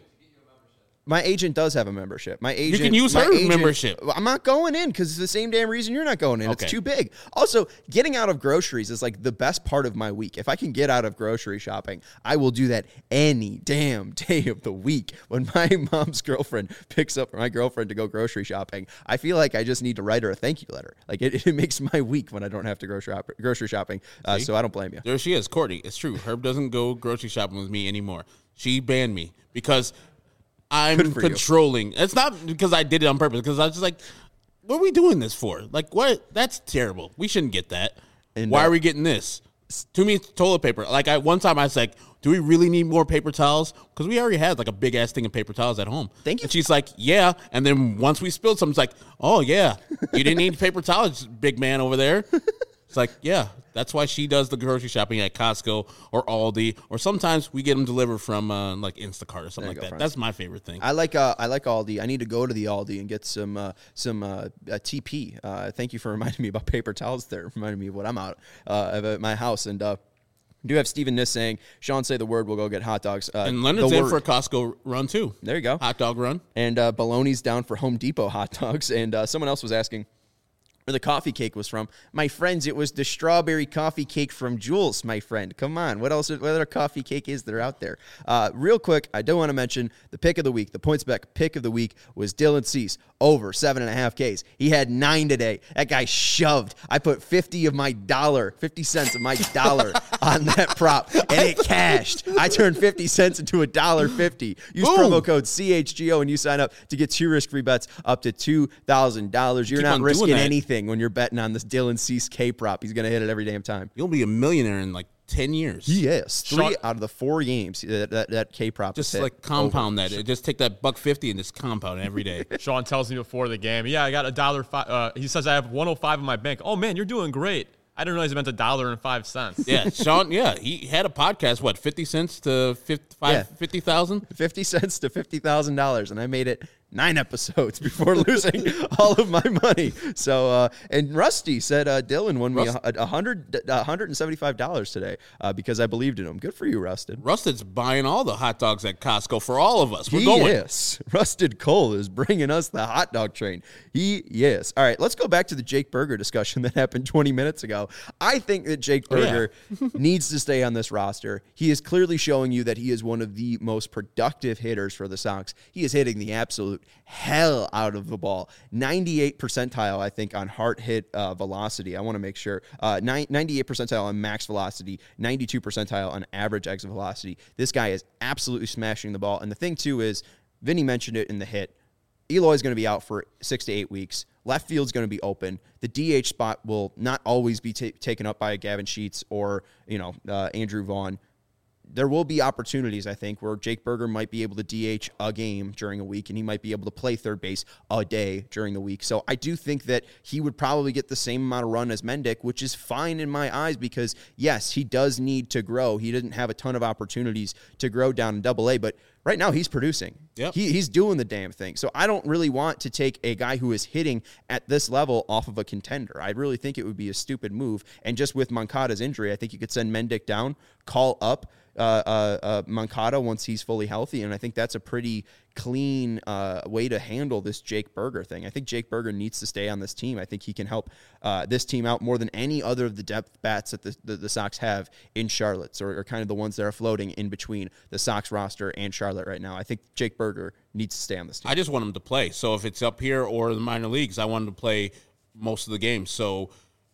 My agent does have a membership. My agent, you can use her agent, membership. I'm not going in because it's the same damn reason you're not going in. Okay. It's too big. Also, getting out of groceries is like the best part of my week. If I can get out of grocery shopping, I will do that any damn day of the week. When my mom's girlfriend picks up my girlfriend to go grocery shopping, I feel like I just need to write her a thank you letter. Like it, it makes my week when I don't have to go shop, grocery shopping. Uh, so I don't blame you. There she is, Courtney. It's true. Herb doesn't go grocery shopping with me anymore. She banned me because I'm controlling. You. It's not because I did it on purpose. Because I was just like, "What are we doing this for? Like, what? That's terrible. We shouldn't get that. And Why uh, are we getting this? To me, it's toilet paper. Like, I one time I was like, do we really need more paper towels? Because we already had like a big ass thing of paper towels at home. Thank you. And she's like, yeah. And then once we spilled some, it's like, oh yeah, you didn't need paper towels, big man over there. It's like, yeah, that's why she does the grocery shopping at Costco or Aldi, or sometimes we get them delivered from uh, like Instacart or something like go, that. Friends. That's my favorite thing. I like uh, I like Aldi. I need to go to the Aldi and get some uh, some uh, uh, T P. Uh, thank you for reminding me about paper towels there. Reminding me of what I'm out uh, at my house. And uh, we do have Stephen Niss saying, Sean, say the word, we'll go get hot dogs. Uh, and Leonard's in for a Costco run too. There you go. Hot dog run. And uh, Baloney's down for Home Depot hot dogs. And uh, someone else was asking where the coffee cake was from. My friends, it was the strawberry coffee cake from Jules, my friend. Come on. What else? What other coffee cake is there out there? Uh, real quick, I do want to mention the pick of the week. The PointsBet pick of the week was Dylan Cease, over seven and a half Ks. He had nine today. That guy shoved. I put fifty of my dollar, fifty cents of my dollar on that prop, and it cashed. I turned fifty cents into a dollar fifty. Use Boom. promo code C H G O and you sign up to get two risk-free bets up to two thousand dollars. You're Keep not risking anything when you're betting on this Dylan Cease K prop. He's going to hit it every damn time. You'll be a millionaire in like ten years. Yes. Three Sean, out of the four games that that, that K prop just like compound over. that. Just take that buck fifty and just compound it every day. Sean tells me before the game, yeah, I got a dollar five. Uh, he says I have one oh five in my bank. Oh man, you're doing great. I didn't realize it meant a dollar and five cents. Yeah, Sean. Yeah, he had a podcast. What, fifty cents to fifty-five, yeah. fifty thousand? Fifty cents to fifty thousand dollars, and I made it nine episodes before losing all of my money. So, uh, and Rusty said uh, Dylan won Rust- me a, a hundred, a hundred and seventy-five dollars today uh, because I believed in him. Good for you, Rusted. Rusted's buying all the hot dogs at Costco for all of us. We're he going. Yes, Rusted Cole is bringing us the hot dog train. He yes. All right, let's go back to the Jake Burger discussion that happened twenty minutes ago. I think that Jake Burger oh, yeah. needs to stay on this roster. He is clearly showing you that he is one of the most productive hitters for the Sox. He is hitting the absolute absolute hell out of the ball. ninety-eight percentile, I think, on heart hit uh, velocity. I want to make sure. Uh, ninety-eight percentile on max velocity, ninety-two percentile on average exit velocity. This guy is absolutely smashing the ball. And the thing, too, is Vinny mentioned it in the hit. Eloy's going to be out for six to eight weeks. Left field's going to be open. The D H spot will not always be t- taken up by Gavin Sheets or, you know, uh, Andrew Vaughn. There will be opportunities, I think, where Jake Burger might be able to D H a game during a week, and he might be able to play third base a day during the week. So I do think that he would probably get the same amount of run as Mendick, which is fine in my eyes because, yes, he does need to grow. He didn't have a ton of opportunities to grow down in double A, but right now he's producing. Yep. He, he's doing the damn thing. So I don't really want to take a guy who is hitting at this level off of a contender. I really think it would be a stupid move. And just with Moncada's injury, I think you could send Mendick down, call up uh, uh, uh, Moncada once he's fully healthy, and I think that's a pretty clean uh, way to handle this Jake Burger thing. I think Jake Burger needs to stay on this team. I think he can help uh, this team out more than any other of the depth bats that the, the, the Sox have in Charlotte, or, or kind of the ones that are floating in between the Sox roster and Charlotte right now. I think Jake Burger needs to stay on this team. I just want him to play. So if it's up here or the minor leagues, I want him to play most of the games. So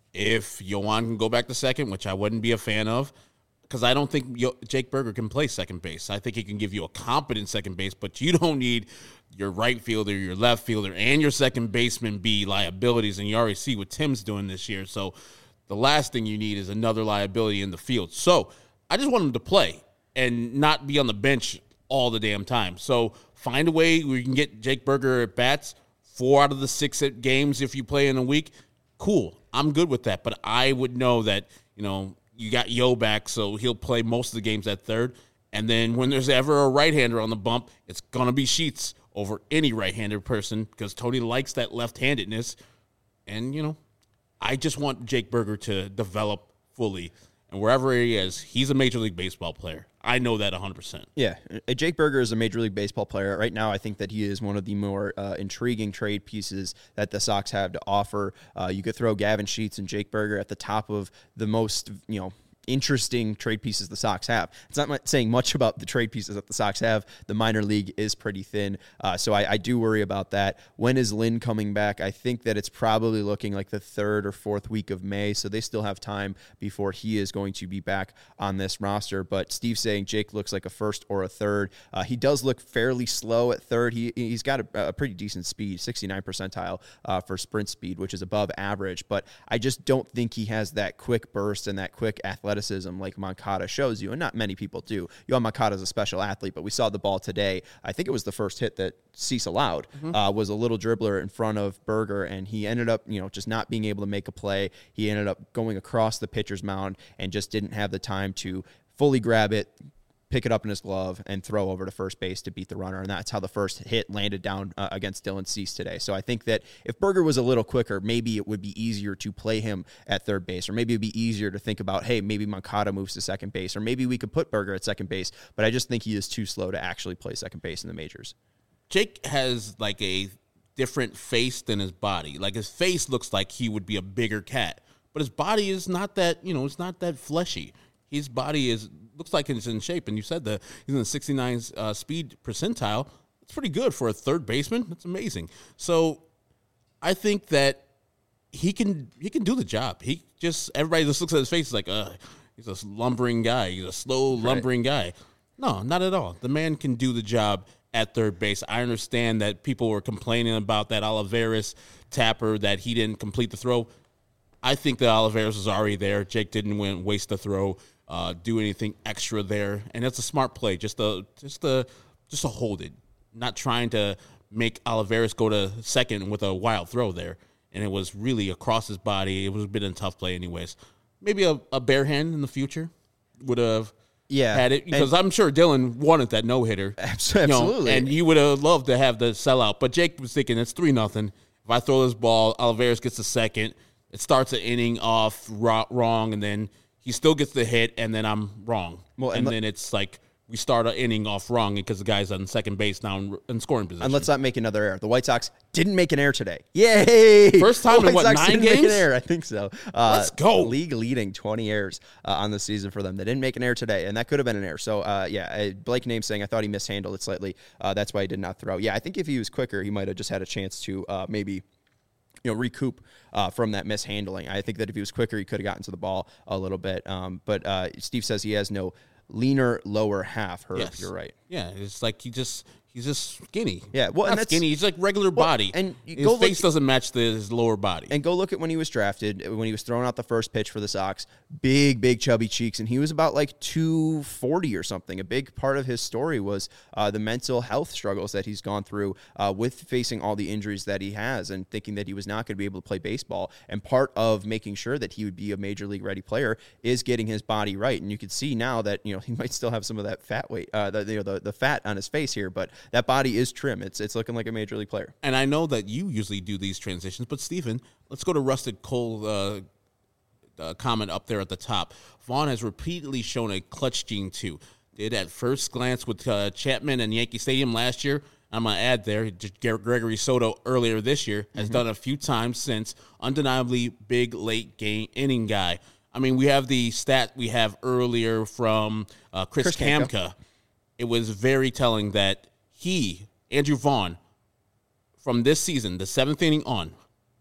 if Yoan can go back to second, which I wouldn't be a fan of, because I don't think Yo- Jake Burger can play second base. I think he can give you a competent second base, but you don't need your right fielder, your left fielder, and your second baseman be liabilities, and you already see what Tim's doing this year. So the last thing you need is another liability in the field. So I just want him to play and not be on the bench all the damn time. So find a way where you can get Jake Burger at bats four out of the six games if you play in a week. Cool. I'm good with that, but I would know that, you know, you got Yo back, so he'll play most of the games at third. And then when there's ever a right-hander on the bump, it's going to be Sheets over any right-handed person because Tony likes that left-handedness. And, you know, I just want Jake Burger to develop fully. And wherever he is, he's a Major League Baseball player. I know that one hundred percent. Yeah, Jake Burger is a Major League Baseball player. Right now, I think that he is one of the more uh, intriguing trade pieces that the Sox have to offer. Uh, you could throw Gavin Sheets and Jake Burger at the top of the most, you know, interesting trade pieces the Sox have. It's not saying much about the trade pieces that the Sox have. The minor league is pretty thin, uh, so I, I do worry about that. When is Lynn coming back? I think that it's probably looking like the third or fourth week of May, so they still have time before he is going to be back on this roster. But Steve's saying Jake looks like a first or a third. Uh, he does look fairly slow at third. He, he's got a, a pretty decent speed, sixty-nine percentile uh, for sprint speed, which is above average, but I just don't think he has that quick burst and that quick athleticism like Moncada shows you, and not many people do. Yoan Moncada is a special athlete, but we saw the ball today. I think it was the first hit that Cease allowed, mm-hmm. uh, was a little dribbler in front of Burger, and he ended up, you know, just not being able to make a play. He ended up going across the pitcher's mound and just didn't have the time to fully grab it, pick it up in his glove, and throw over to first base to beat the runner. And that's how the first hit landed down uh, against Dylan Cease today. So I think that if Burger was a little quicker, maybe it would be easier to play him at third base, or maybe it'd be easier to think about, hey, maybe Moncada moves to second base, or maybe we could put Burger at second base. But I just think he is too slow to actually play second base in the majors. Jake has like a different face than his body. Like his face looks like he would be a bigger cat, but his body is not that, you know, it's not that fleshy. His body is looks like it's in shape, and you said that he's in the sixty-nine uh, speed percentile. That's pretty good for a third baseman. That's amazing. So I think that he can he can do the job. He just everybody just looks at his face like, uh, he's a lumbering guy. He's a slow lumbering right. guy. No, not at all. The man can do the job at third base. I understand that people were complaining about that Olivares tapper that he didn't complete the throw. I think that Olivares was already there. Jake didn't win, waste the throw. Uh, do anything extra there, and it's a smart play, just to just to just to hold it, not trying to make Olivares go to second with a wild throw there, and it was really across his body. It was a bit of a tough play, anyways. Maybe a, a bare hand in the future would have yeah, had it, because I'm sure Dylan wanted that no hitter, absolutely, you know, and he would have loved to have the sellout. But Jake was thinking it's three nothing. If I throw this ball, Olivares gets a second. It starts an inning off wrong, and then he still gets the hit, and then I'm wrong. Well, and, and then it's like we start an inning off wrong because the guy's on second base now in, in scoring position. And let's not make another error. The White Sox didn't make an error today. Yay! First time the in White what, Sox nine didn't make games? an error. I think so. Uh, Let's go. League leading twenty errors uh, on the season for them. They didn't make an error today, and that could have been an error. So, uh, yeah, uh, Blake Name saying, I thought he mishandled it slightly. Uh, that's why he did not throw. Yeah, I think if he was quicker, he might have just had a chance to uh, maybe you know, recoup uh, from that mishandling. I think that if he was quicker, he could have gotten to the ball a little bit. Um, but uh, Steve says he has no leaner lower half. Herb, Yes. you're right. Yeah, it's like he just he's just skinny. Yeah, well, Not and that's- skinny. He's like regular Well, body, and you his go look- face doesn't match the, his lower body. And go look at when he was drafted, when he was throwing out the first pitch for the Sox. Big, big chubby cheeks, and he was about like two forty or something. A big part of his story was uh, the mental health struggles that he's gone through uh, with facing all the injuries that he has and thinking that he was not going to be able to play baseball. And part of making sure that he would be a major league ready player is getting his body right. And you can see now that, you know, he might still have some of that fat weight, uh, the, you know, the, the fat on his face here, but that body is trim. It's, it's looking like a major league player. And I know that you usually do these transitions, but Stephen, let's go to Rusted Cole uh, uh, comment up there at the top. Vaughn has repeatedly shown a clutch gene too. Did at first glance with uh, Chapman and Yankee Stadium last year. I'm going to add there, Gregory Soto earlier this year has mm-hmm. done a few times since. Undeniably big late game inning guy. I mean, we have the stat we have earlier from uh, Chris, Chris Kamka. Kamka. It was very telling that he, Andrew Vaughn, from this season, the seventh inning on,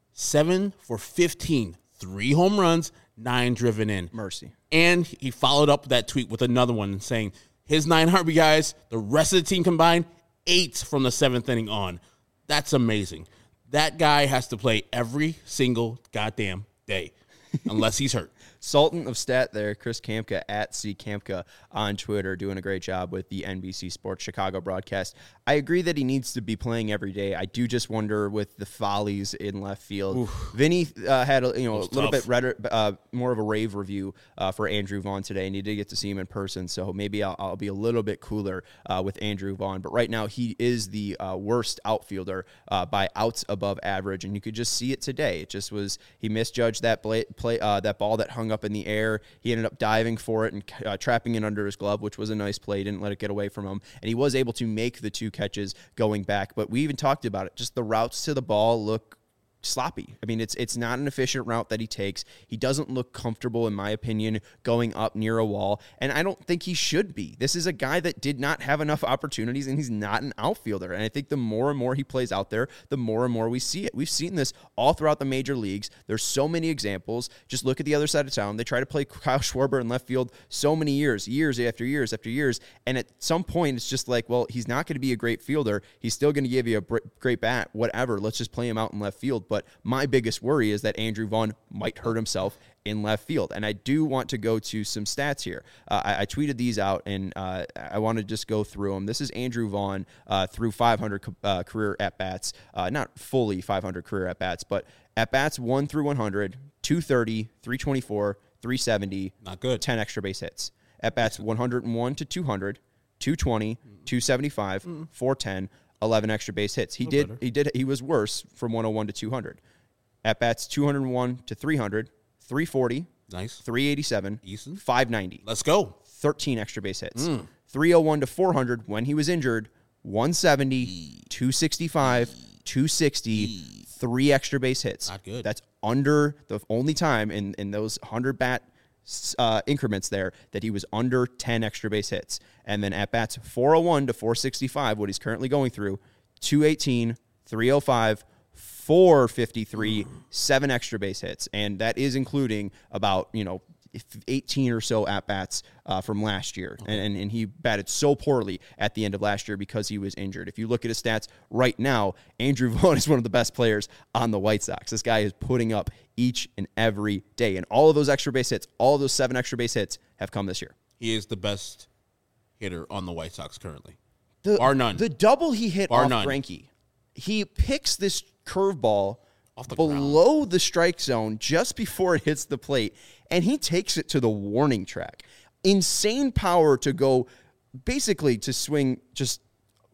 seven for fifteen, three home runs, nine driven in. Mercy. And he followed up that tweet with another one saying his nine R B Is, the rest of the team combined, eight from the seventh inning on. That's amazing. That guy has to play every single goddamn day unless he's hurt. Sultan of Stat there, Chris Kamka at C Kamka on Twitter, doing a great job with the N B C Sports Chicago broadcast. I agree that he needs to be playing every day. I do just wonder with the follies in left field. Oof. Vinny uh, had a, you know a little tough. bit redder, uh, more of a rave review uh, for Andrew Vaughn today, and he did get to see him in person. So maybe I'll, I'll be a little bit cooler uh, with Andrew Vaughn. But right now he is the uh, worst outfielder uh, by outs above average, and you could just see it today. It just was he misjudged that play, play uh, that ball that hung up in the air. He ended up diving for it and uh, trapping it under his glove, which was a nice play. He didn't let it get away from him. And he was able to make the two catches going back. But we even talked about it. Just the routes to the ball look sloppy. I mean, it's it's not an efficient route that he takes. He doesn't look comfortable, in my opinion, going up near a wall, and I don't think he should be. This is a guy that did not have enough opportunities, and he's not an outfielder, and I think the more and more he plays out there, the more and more we see it. We've seen this all throughout the major leagues. There's so many examples. Just look at the other side of town. They try to play Kyle Schwarber in left field so many years, years after years after years, and at some point, it's just like, well, he's not going to be a great fielder. He's still going to give you a great bat, whatever. Let's just play him out in left field. But my biggest worry is that Andrew Vaughn might hurt himself in left field. And I do want to go to some stats here. Uh, I, I tweeted these out, and uh, I want to just go through them. This is Andrew Vaughn uh, through five hundred uh, career at-bats. Uh, not fully five hundred career at-bats, but at-bats one through one hundred, two thirty, three twenty-four, three seventy. Not good. ten extra base hits. At-bats one hundred one to two hundred, two twenty, two seventy-five, mm. four ten, eleven extra base hits. He did, better. he did, he was worse from one oh one to two hundred. At-bats two hundred one to three hundred, three forty, nice, three eighty-seven, Eason. five ninety. Let's go. thirteen extra base hits. Mm. three oh one to four hundred when he was injured, one seventy, e. two sixty-five, e. two sixty, e. three extra base hits. Not good. That's under the only time in, in those one hundred bat uh, increments there that he was under ten extra base hits. And then at-bats four oh one to four sixty-five, what he's currently going through, two eighteen, three oh five, four fifty-three, seven extra base hits, and that is including about, you know, eighteen or so at-bats uh, from last year, okay. and, and he batted so poorly at the end of last year because he was injured. If you look at his stats right now, Andrew Vaughn is one of the best players on the White Sox. This guy is putting up each and every day, and all of those extra base hits, all of those seven extra base hits have come this year. He is the best hitter on the White Sox currently. The, Bar none. The double he hit Bar off none. Greinke, he picks this curveball off the below ground. the strike zone just before it hits the plate, and he takes it to the warning track. Insane power to go basically to swing just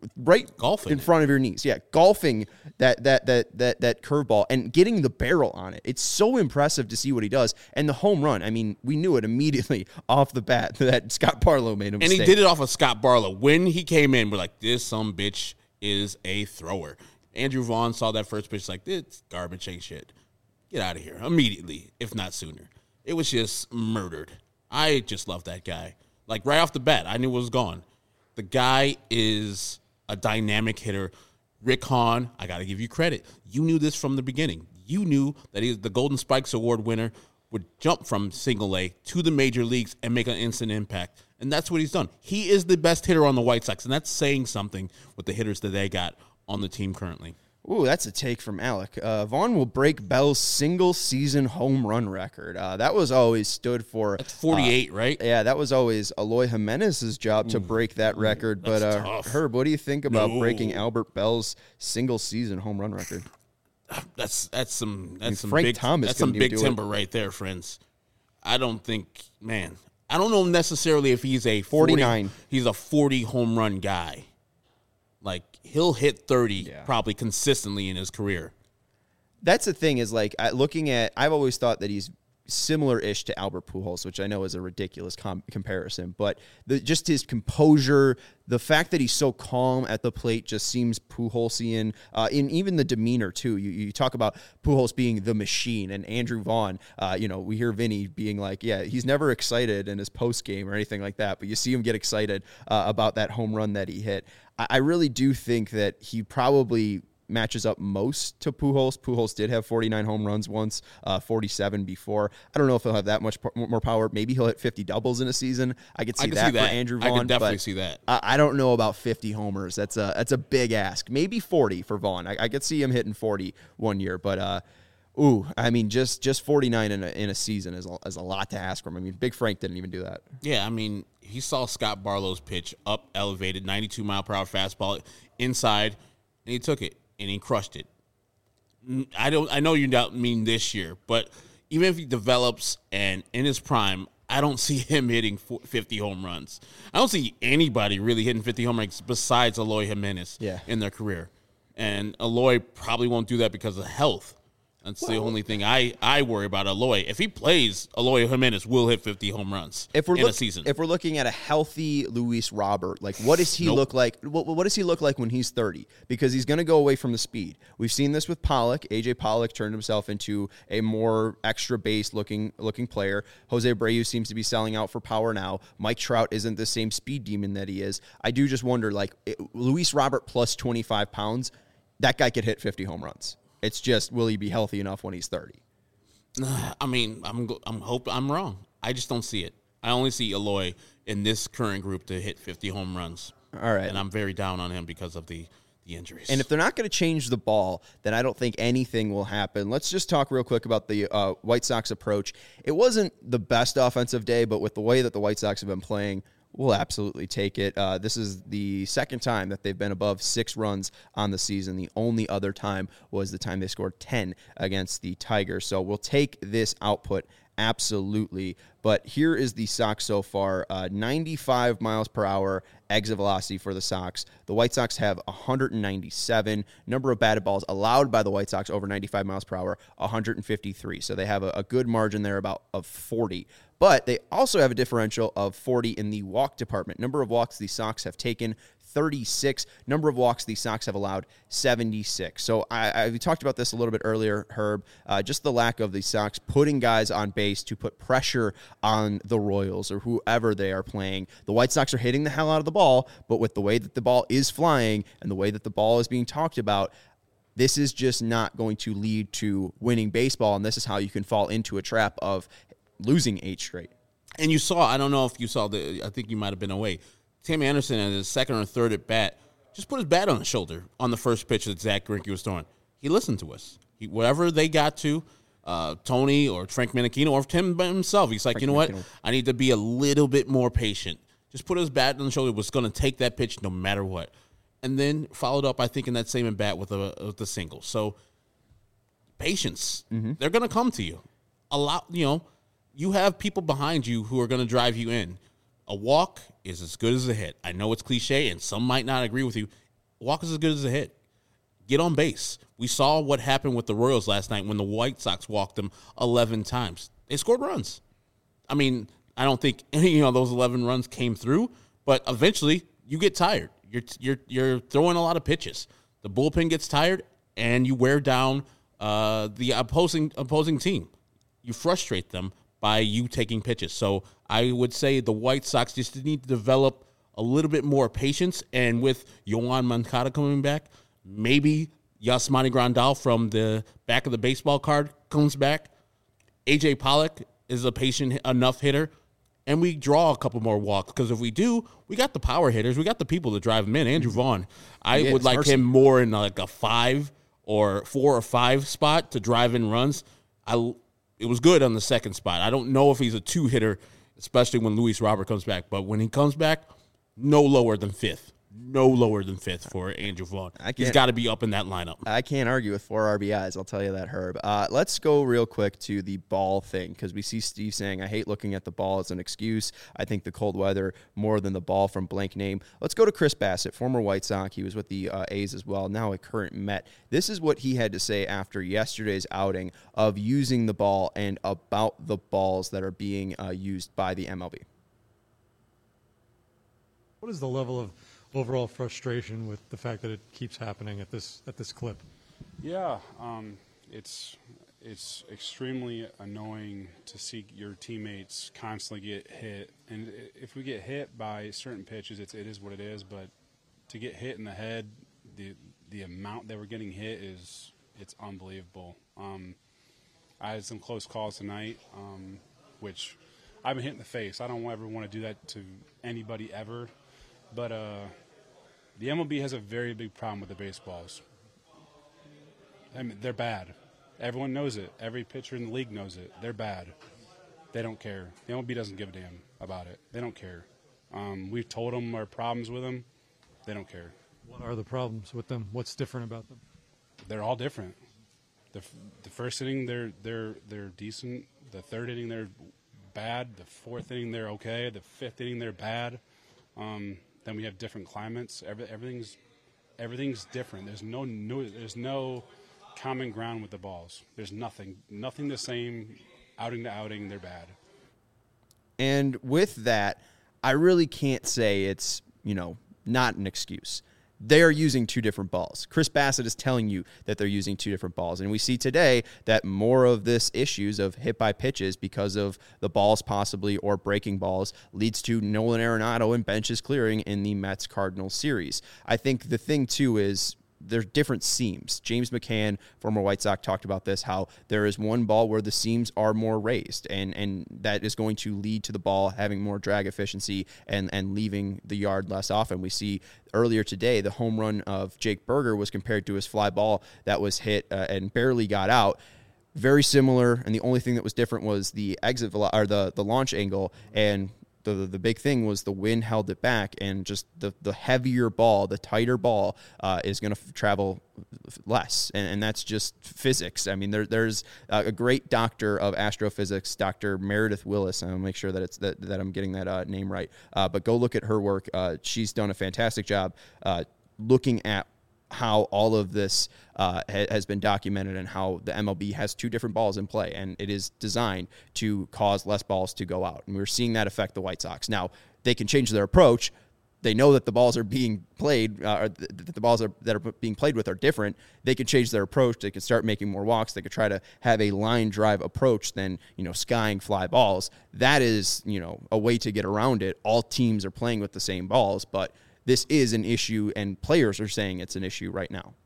right golfing in it. front of your knees. Yeah, golfing that that that that that curveball and getting the barrel on it. It's so impressive to see what he does. And the home run, I mean, we knew it immediately off the bat that Scott Barlow made a mistake. And he did it off of Scott Barlow. When he came in, we're like, this some bitch is a thrower. Andrew Vaughn saw that first pitch like, this garbage ain't shit. Get out of here immediately, if not sooner. It was just murdered. I just love that guy. Like, right off the bat, I knew it was gone. The guy is a dynamic hitter. Rick Hahn, I got to give you credit. You knew this from the beginning. You knew that he, the Golden Spikes Award winner, would jump from single A to the major leagues and make an instant impact. And that's what he's done. He is the best hitter on the White Sox, and that's saying something with the hitters that they got on the team currently. Ooh, that's a take from Alec. Uh, Vaughn will break Bell's single-season home run record. Uh, that was always stood for... That's forty-eight, uh, right? Yeah, that was always Eloy Jimenez's job to break that record. But uh, tough. Herb, what do you think about No. breaking Albert Bell's single-season home run record? That's that's some that's mean, some Frank big Thomas that's some couldn't even big do it. timber right there, friends. I don't think, man. I don't know necessarily if he's a forty, forty-nine. He's a forty home run guy. Like, he'll hit thirty Yeah. probably consistently in his career. That's the thing is, like, I- looking at, I've always thought that he's similar-ish to Albert Pujols, which I know is a ridiculous com- comparison, but the, just his composure, the fact that he's so calm at the plate just seems Puholsian, uh, in even the demeanor, too. You, you talk about Pujols being the machine, and Andrew Vaughn, uh, you know, we hear Vinny being like, yeah, he's never excited in his post-game or anything like that, but you see him get excited uh, about that home run that he hit. I, I really do think that he probably matches up most to Pujols. Pujols did have forty-nine home runs once, uh, forty-seven before. I don't know if he'll have that much p- more power. Maybe he'll hit fifty doubles in a season. I could see, I can that, see that. for Andrew I Vaughn. could definitely but see that. I, I don't know about fifty homers. That's a that's a big ask. Maybe forty for Vaughn. I, I could see him hitting forty one year, but uh, ooh, I mean, just just forty-nine in a in a season is a, is a lot to ask from him. I mean, Big Frank didn't even do that. Yeah, I mean, he saw Scott Barlow's pitch up, elevated, ninety-two mile per hour fastball inside, and he took it and he crushed it. I don't. I know you don't mean this year, but even if he develops and in his prime, I don't see him hitting fifty home runs. I don't see anybody really hitting fifty home runs besides Eloy Jimenez Yeah. in their career. And Eloy probably won't do that because of health. That's the only thing I, I worry about Eloy. If he plays, Eloy Jimenez will hit fifty home runs If we're in look, a season. if we're looking at a healthy Luis Robert, like what does he Nope. look like? What, what does he look like when he's thirty? Because he's going to go away from the speed. We've seen this with Pollock. A J Pollock turned himself into a more extra base looking looking player. Jose Abreu seems to be selling out for power now. Mike Trout isn't the same speed demon that he is. I do just wonder, like it, Luis Robert plus twenty-five pounds, that guy could hit fifty home runs. It's just, will he be healthy enough when he's thirty? I mean, I'm I'm hope I'm wrong. I just don't see it. I only see Eloy in this current group to hit fifty home runs. All right. And I'm very down on him because of the, the injuries. And if they're not going to change the ball, then I don't think anything will happen. Let's just talk real quick about the uh, White Sox approach. It wasn't the best offensive day, but with the way that the White Sox have been playing, we'll absolutely take it. Uh, this is the second time that they've been above six runs on the season. The only other time was the time they scored ten against the Tigers. So we'll take this output absolutely. But here is the Sox so far. Uh, ninety-five miles per hour exit velocity for the Sox. The White Sox have one hundred ninety-seven. Number of batted balls allowed by the White Sox over ninety-five miles per hour, one hundred fifty-three. So they have a, a good margin there about of forty. But they also have a differential of forty in the walk department. Number of walks the Sox have taken, thirty-six. Number of walks the Sox have allowed, seventy-six. So I, I we talked about this a little bit earlier, Herb. Uh, just the lack of the Sox putting guys on base to put pressure on the Royals or whoever they are playing. The White Sox are hitting the hell out of the ball, but with the way that the ball is flying and the way that the ball is being talked about, this is just not going to lead to winning baseball, and this is how you can fall into a trap of losing eight straight. And you saw, I don't know if you saw the, I think you might have been away. Tim Anderson at his second or third at bat just put his bat on his shoulder on the first pitch that Zach Greinke was throwing. He listened to us. He, whatever they got to, uh, Tony or Frank Menechino or Tim himself, he's like, Frank you know what? Menechino. I need to be a little bit more patient. Just put his bat on the shoulder. Was going to take that pitch no matter what. And then followed up, I think, in that same at bat with a with the single. So patience. Mm-hmm. They're going to come to you. A lot, you know, you have people behind you who are going to drive you in. A walk is as good as a hit. I know it's cliche, and some might not agree with you. walk is as good as a hit. Get on base. We saw what happened with the Royals last night when the White Sox walked them eleven times. They scored runs. I mean, I don't think any you know those eleven runs came through, but eventually you get tired. You're you're you're throwing a lot of pitches. The bullpen gets tired, and you wear down uh, the opposing opposing team. You frustrate them by you taking pitches. So I would say the White Sox just need to develop a little bit more patience, and with Yoan Moncada coming back, maybe Yasmani Grandal from the back of the baseball card comes back. A J Pollock is a patient enough hitter, and we draw a couple more walks. Because if we do, we got the power hitters. We got the people to drive them in. Andrew Vaughn, I Yeah, would like mercy. him more in like a five or four or five spot to drive in runs. I It was good on the second spot. I don't know if he's a two hitter, especially when Luis Robert comes back. But when he comes back, no lower than fifth. No lower than fifth for Andrew Vaughn. I He's can't- got to be up in that lineup. I can't argue with four R B Is. I'll tell you that, Herb. Uh, let's go real quick to the ball thing because we see Steve saying, I hate looking at the ball as an excuse. I think the cold weather more than the ball from blank name. Let's go to Chris Bassett, former White Sox. He was with the uh, A's as well, now a current Met. This is what he had to say after yesterday's outing of using the ball and about the balls that are being uh, used by the M L B. What is the level of overall frustration with the fact that it keeps happening at this at this clip? Yeah, um, it's it's extremely annoying to see your teammates constantly get hit. And if we get hit by certain pitches, it's, it is what it is. But to get hit in the head, the the amount that we're getting hit is it's unbelievable. Um, I had some close calls tonight, um, which I've been hit in the face. I don't ever want to do that to anybody ever. But uh, the M L B has a very big problem with the baseballs. I mean, they're bad. Everyone knows it. Every pitcher in the league knows it. They're bad. They don't care. The M L B doesn't give a damn about it. They don't care. Um, we've told them our problems with them. They don't care. What are the problems with them? What's different about them? They're all different. The, f- the first inning, they're they're they're decent. The third inning, they're bad. The fourth inning, they're okay. The fifth inning, they're bad. Um, then we have different climates. Every, everything's everything's different. There's no new, there's no common ground with the balls. There's nothing nothing the same. Outing to outing, they're bad. And with that, I really can't say it's, you know, not an excuse. They are using two different balls. Chris Bassett is telling you that they're using two different balls. And we see today that more of this issues of hit by pitches because of the balls possibly or breaking balls leads to Nolan Arenado and benches clearing in the Mets-Cardinals series. I think the thing, too, is there's different seams. James McCann, former White Sox, talked about this, how there is one ball where the seams are more raised, and, and that is going to lead to the ball having more drag efficiency and, and leaving the yard less often. We see earlier today the home run of Jake Berger was compared to his fly ball that was hit uh, and barely got out. Very similar, and the only thing that was different was the exit velo- or the, the launch angle, and The, the big thing was the wind held it back, and just the, the heavier ball, the tighter ball uh, is going to f- travel less, and, and that's just physics. I mean, there, there's a great doctor of astrophysics, Doctor Meredith Willis. I'll make sure that it's that, that I'm getting that uh, name right. Uh, but go look at her work. Uh, she's done a fantastic job uh, looking at how all of this uh, ha- has been documented and how the M L B has two different balls in play, and it is designed to cause less balls to go out. And we're seeing that affect the White Sox. Now, they can change their approach. They know that the balls are being played, uh, or th- that the balls are, that are being played with are different. They can change their approach. They can start making more walks. They could try to have a line drive approach than, you know, skying fly balls. That is, you know, a way to get around it. All teams are playing with the same balls, but this is an issue, and players are saying it's an issue right now.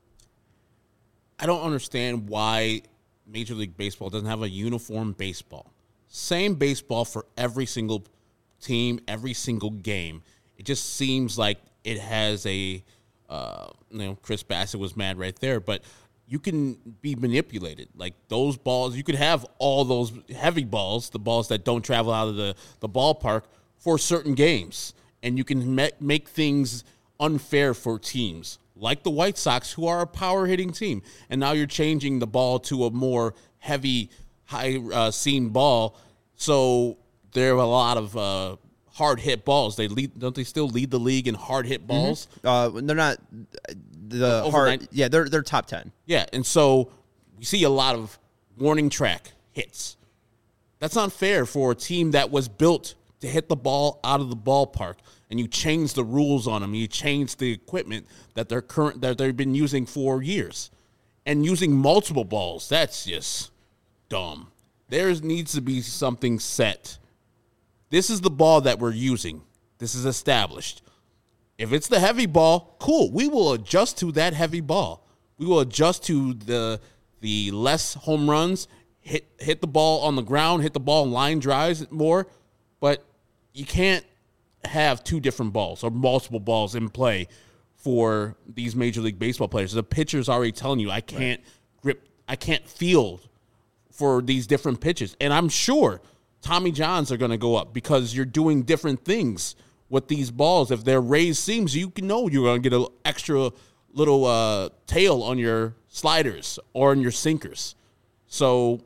I don't understand why Major League Baseball doesn't have a uniform baseball. Same baseball for every single team, every single game. It just seems like it has a, uh, you know, Chris Bassett was mad right there, but you can be manipulated. Like those balls, you could have all those heavy balls, the balls that don't travel out of the, the ballpark for certain games. And you can me- make things unfair for teams like the White Sox, who are a power-hitting team. And now you're changing the ball to a more heavy, high uh, seam ball. So there are a lot of uh, hard hit balls. They lead, don't they still lead the league in hard hit balls? Uh, they're not the Over hard. nine- Yeah, they're they're top ten. Yeah, and so we see a lot of warning track hits. That's not fair for a team that was built to hit the ball out of the ballpark, and you change the rules on them. You change the equipment that they're current that they've been using for years, and using multiple balls. That's just dumb. There needs to be something set. This is the ball that we're using. This is established. If it's the heavy ball, cool. We will adjust to that heavy ball. We will adjust to the the less home runs, hit hit the ball on the ground, hit the ball in line drives more. But you can't have two different balls or multiple balls in play for these Major League Baseball players. The pitcher's already telling you, I can't grip, I can't field for these different pitches. And I'm sure Tommy Johns are going to go up because you're doing different things with these balls. If they're raised seams, you can know you're going to get an extra little uh, tail on your sliders or on your sinkers. So,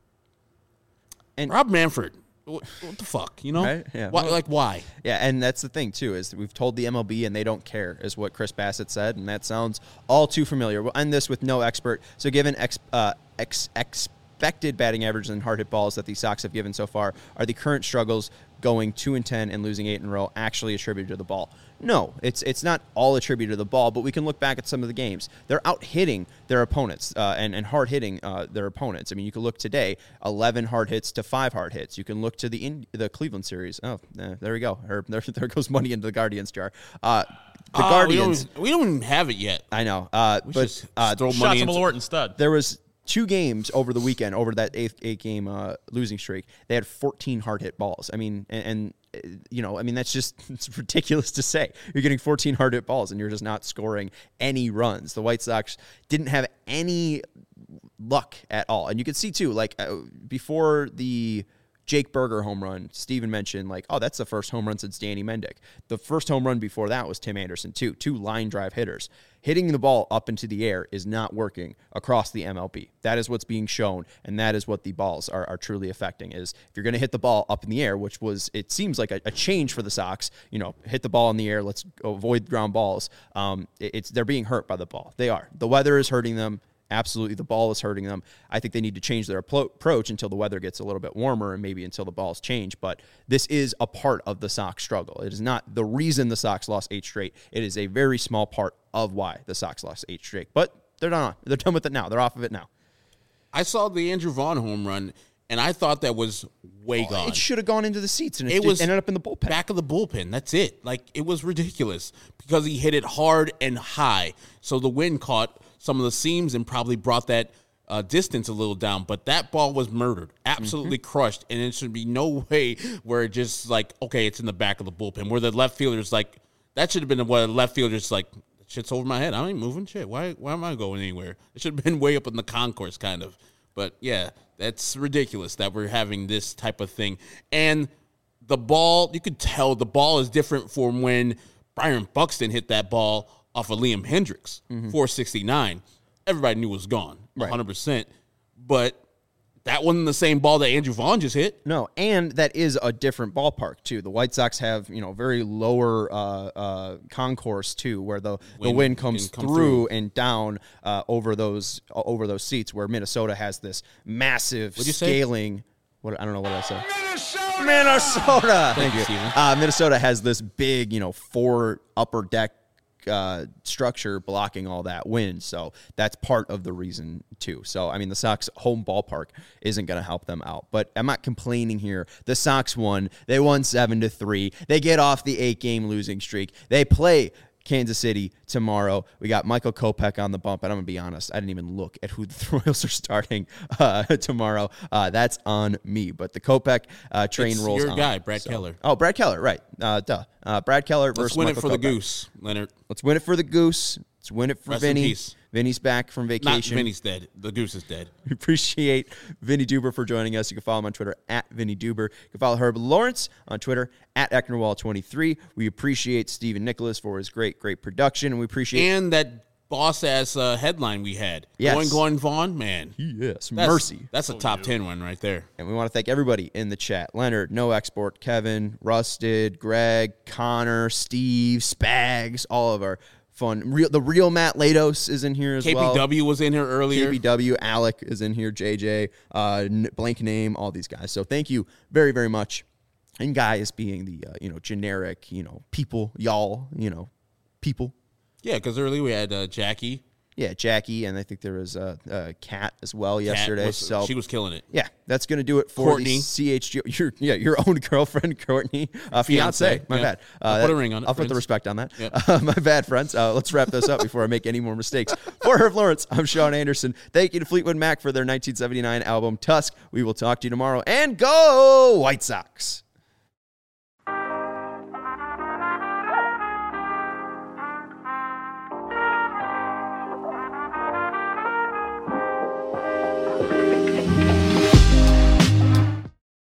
And- Rob Manfred, what, what the fuck, you know? Right? Yeah. Why, like, why? Yeah, and that's the thing too is that we've told the M L B and they don't care, is what Chris Bassett said, and that sounds all too familiar. We'll end this with no expert. So, given ex, uh, ex, expected batting averages and hard hit balls that the Sox have given so far, are the current struggles going two and ten and losing eight in a row actually attributed to the ball? No, it's it's not all attributed to the ball, but we can look back at some of the games. They're out hitting their opponents uh, and, and hard hitting uh, their opponents. I mean, you can look today, eleven hard hits to five hard hits. You can look to the in, the Cleveland series. Oh, eh, there we go. There, there, there goes money into the Guardians jar. Uh, the Uh, Guardians. We don't, we don't even have it yet. I know, uh, We but should uh, throw Shots money to into Malort instead. there was two games over the weekend, over that eighth eight game uh, losing streak. They had fourteen hard hit balls. I mean, and, and uh, you know, I mean, that's just it's ridiculous to say. You're getting fourteen hard hit balls and you're just not scoring any runs. The White Sox didn't have any luck at all. And you can see too, like uh, before the Jake Berger home run, Steven mentioned like, oh, that's the first home run since Danny Mendick. The first home run before that was Tim Anderson too, two line drive hitters. Hitting the ball up into the air is not working across the M L B. That is what's being shown, and that is what the balls are, are truly affecting, is if you're going to hit the ball up in the air, which was, it seems like a, a change for the Sox, you know, hit the ball in the air, let's avoid ground balls. Um, it, it's they're being hurt by the ball. They are. The weather is hurting them. Absolutely, the ball is hurting them. I think they need to change their approach until the weather gets a little bit warmer and maybe until the balls change. But this is a part of the Sox struggle. It is not the reason the Sox lost eight straight. It is a very small part of why the Sox lost eight straight. But they're done. They're done with it now. They're off of it now. I saw the Andrew Vaughn home run, and I thought that was way gone. It should have gone into the seats, and it, It was ended up in the bullpen. Back of the bullpen. That's it. Like, it was ridiculous because he hit it hard and high. So the wind caught some of the seams and probably brought that uh, distance a little down. But that ball was murdered, absolutely mm-hmm. crushed. And it should be no way where it just like, okay, it's in the back of the bullpen. Where the left fielder's like, that should have been what the left fielder's like, shit's over my head. I ain't moving shit. Why, why am I going anywhere? It should have been way up in the concourse kind of. But, yeah, that's ridiculous that we're having this type of thing. And the ball, you could tell the ball is different from when Byron Buxton hit that ball off of Liam Hendricks, mm-hmm. four sixty-nine. Everybody knew it was gone, one hundred percent. Right. But that wasn't the same ball that Andrew Vaughn just hit. No, and that is a different ballpark, too. The White Sox have, you know, very lower uh, uh, concourse, too, where the wind, the wind comes come through, through and down uh, over those uh, over those seats, where Minnesota has this massive What'd you scaling. Say? What I don't know what I said. Minnesota! Minnesota! Thank, Thank you. you, Uh, Minnesota has this big, you know, four upper deck Uh, structure blocking all that wind, so that's part of the reason too. So I mean, the Sox home ballpark isn't going to help them out, but I'm not complaining here. The Sox won. They won seven to three. They get off the eight game losing streak. They play Kansas City tomorrow. We got Michael Kopech on the bump, and I'm going to be honest, I didn't even look at who the Royals are starting uh, tomorrow. Uh, that's on me, but the Kopech uh, train it's rolls your on. guy, Brad so. Keller. Oh, Brad Keller, right. Uh, duh. Uh, Brad Keller versus Let's win Michael it for Kopech. the Goose, Leonard. Let's win it for the Goose. Let's win it for Rest in Vinny. peace. Vinny's back from Not vacation. Vinny's dead. The Goose is dead. We appreciate Vinny Duber for joining us. You can follow him on Twitter at Vinny Duber. You can follow Herb Lawrence on Twitter at Ecknerwall twenty-three. We appreciate Stephen Nicholas for his great, great production, and we appreciate And that boss ass uh, headline we had. Yes. Going Gordon Vaughn, man. Yes, That's, mercy. That's a top ten one right there. And we want to thank everybody in the chat. Leonard, No Export, Kevin, Rusted, Greg, Connor, Steve, Spags, all of our fun. Real, the real Matt Lados is in here as K P W well. K P W was in here earlier. K P W, Alec is in here, J J, uh, blank name, all these guys. So thank you very, very much. And guys being the, uh, you know, generic, you know, people, y'all, you know, people. Yeah, because earlier we had uh, Jackie. Yeah, Jackie, and I think there was a uh, uh, Kat as well yesterday. Kat was, so she was killing it. Yeah, that's going to do it for Courtney. the C H G O. Your, yeah, your own girlfriend, Courtney. Uh, fiance. Fiancé, My yeah. bad. Uh, I'll put a ring on it, I'll put the friends. respect on that. Yep. Uh, my bad, friends. Uh, let's wrap this up before I make any more mistakes. For Herb Lawrence, I'm Sean Anderson. Thank you to Fleetwood Mac for their nineteen seventy-nine album, Tusk. We will talk to you tomorrow. And go White Sox.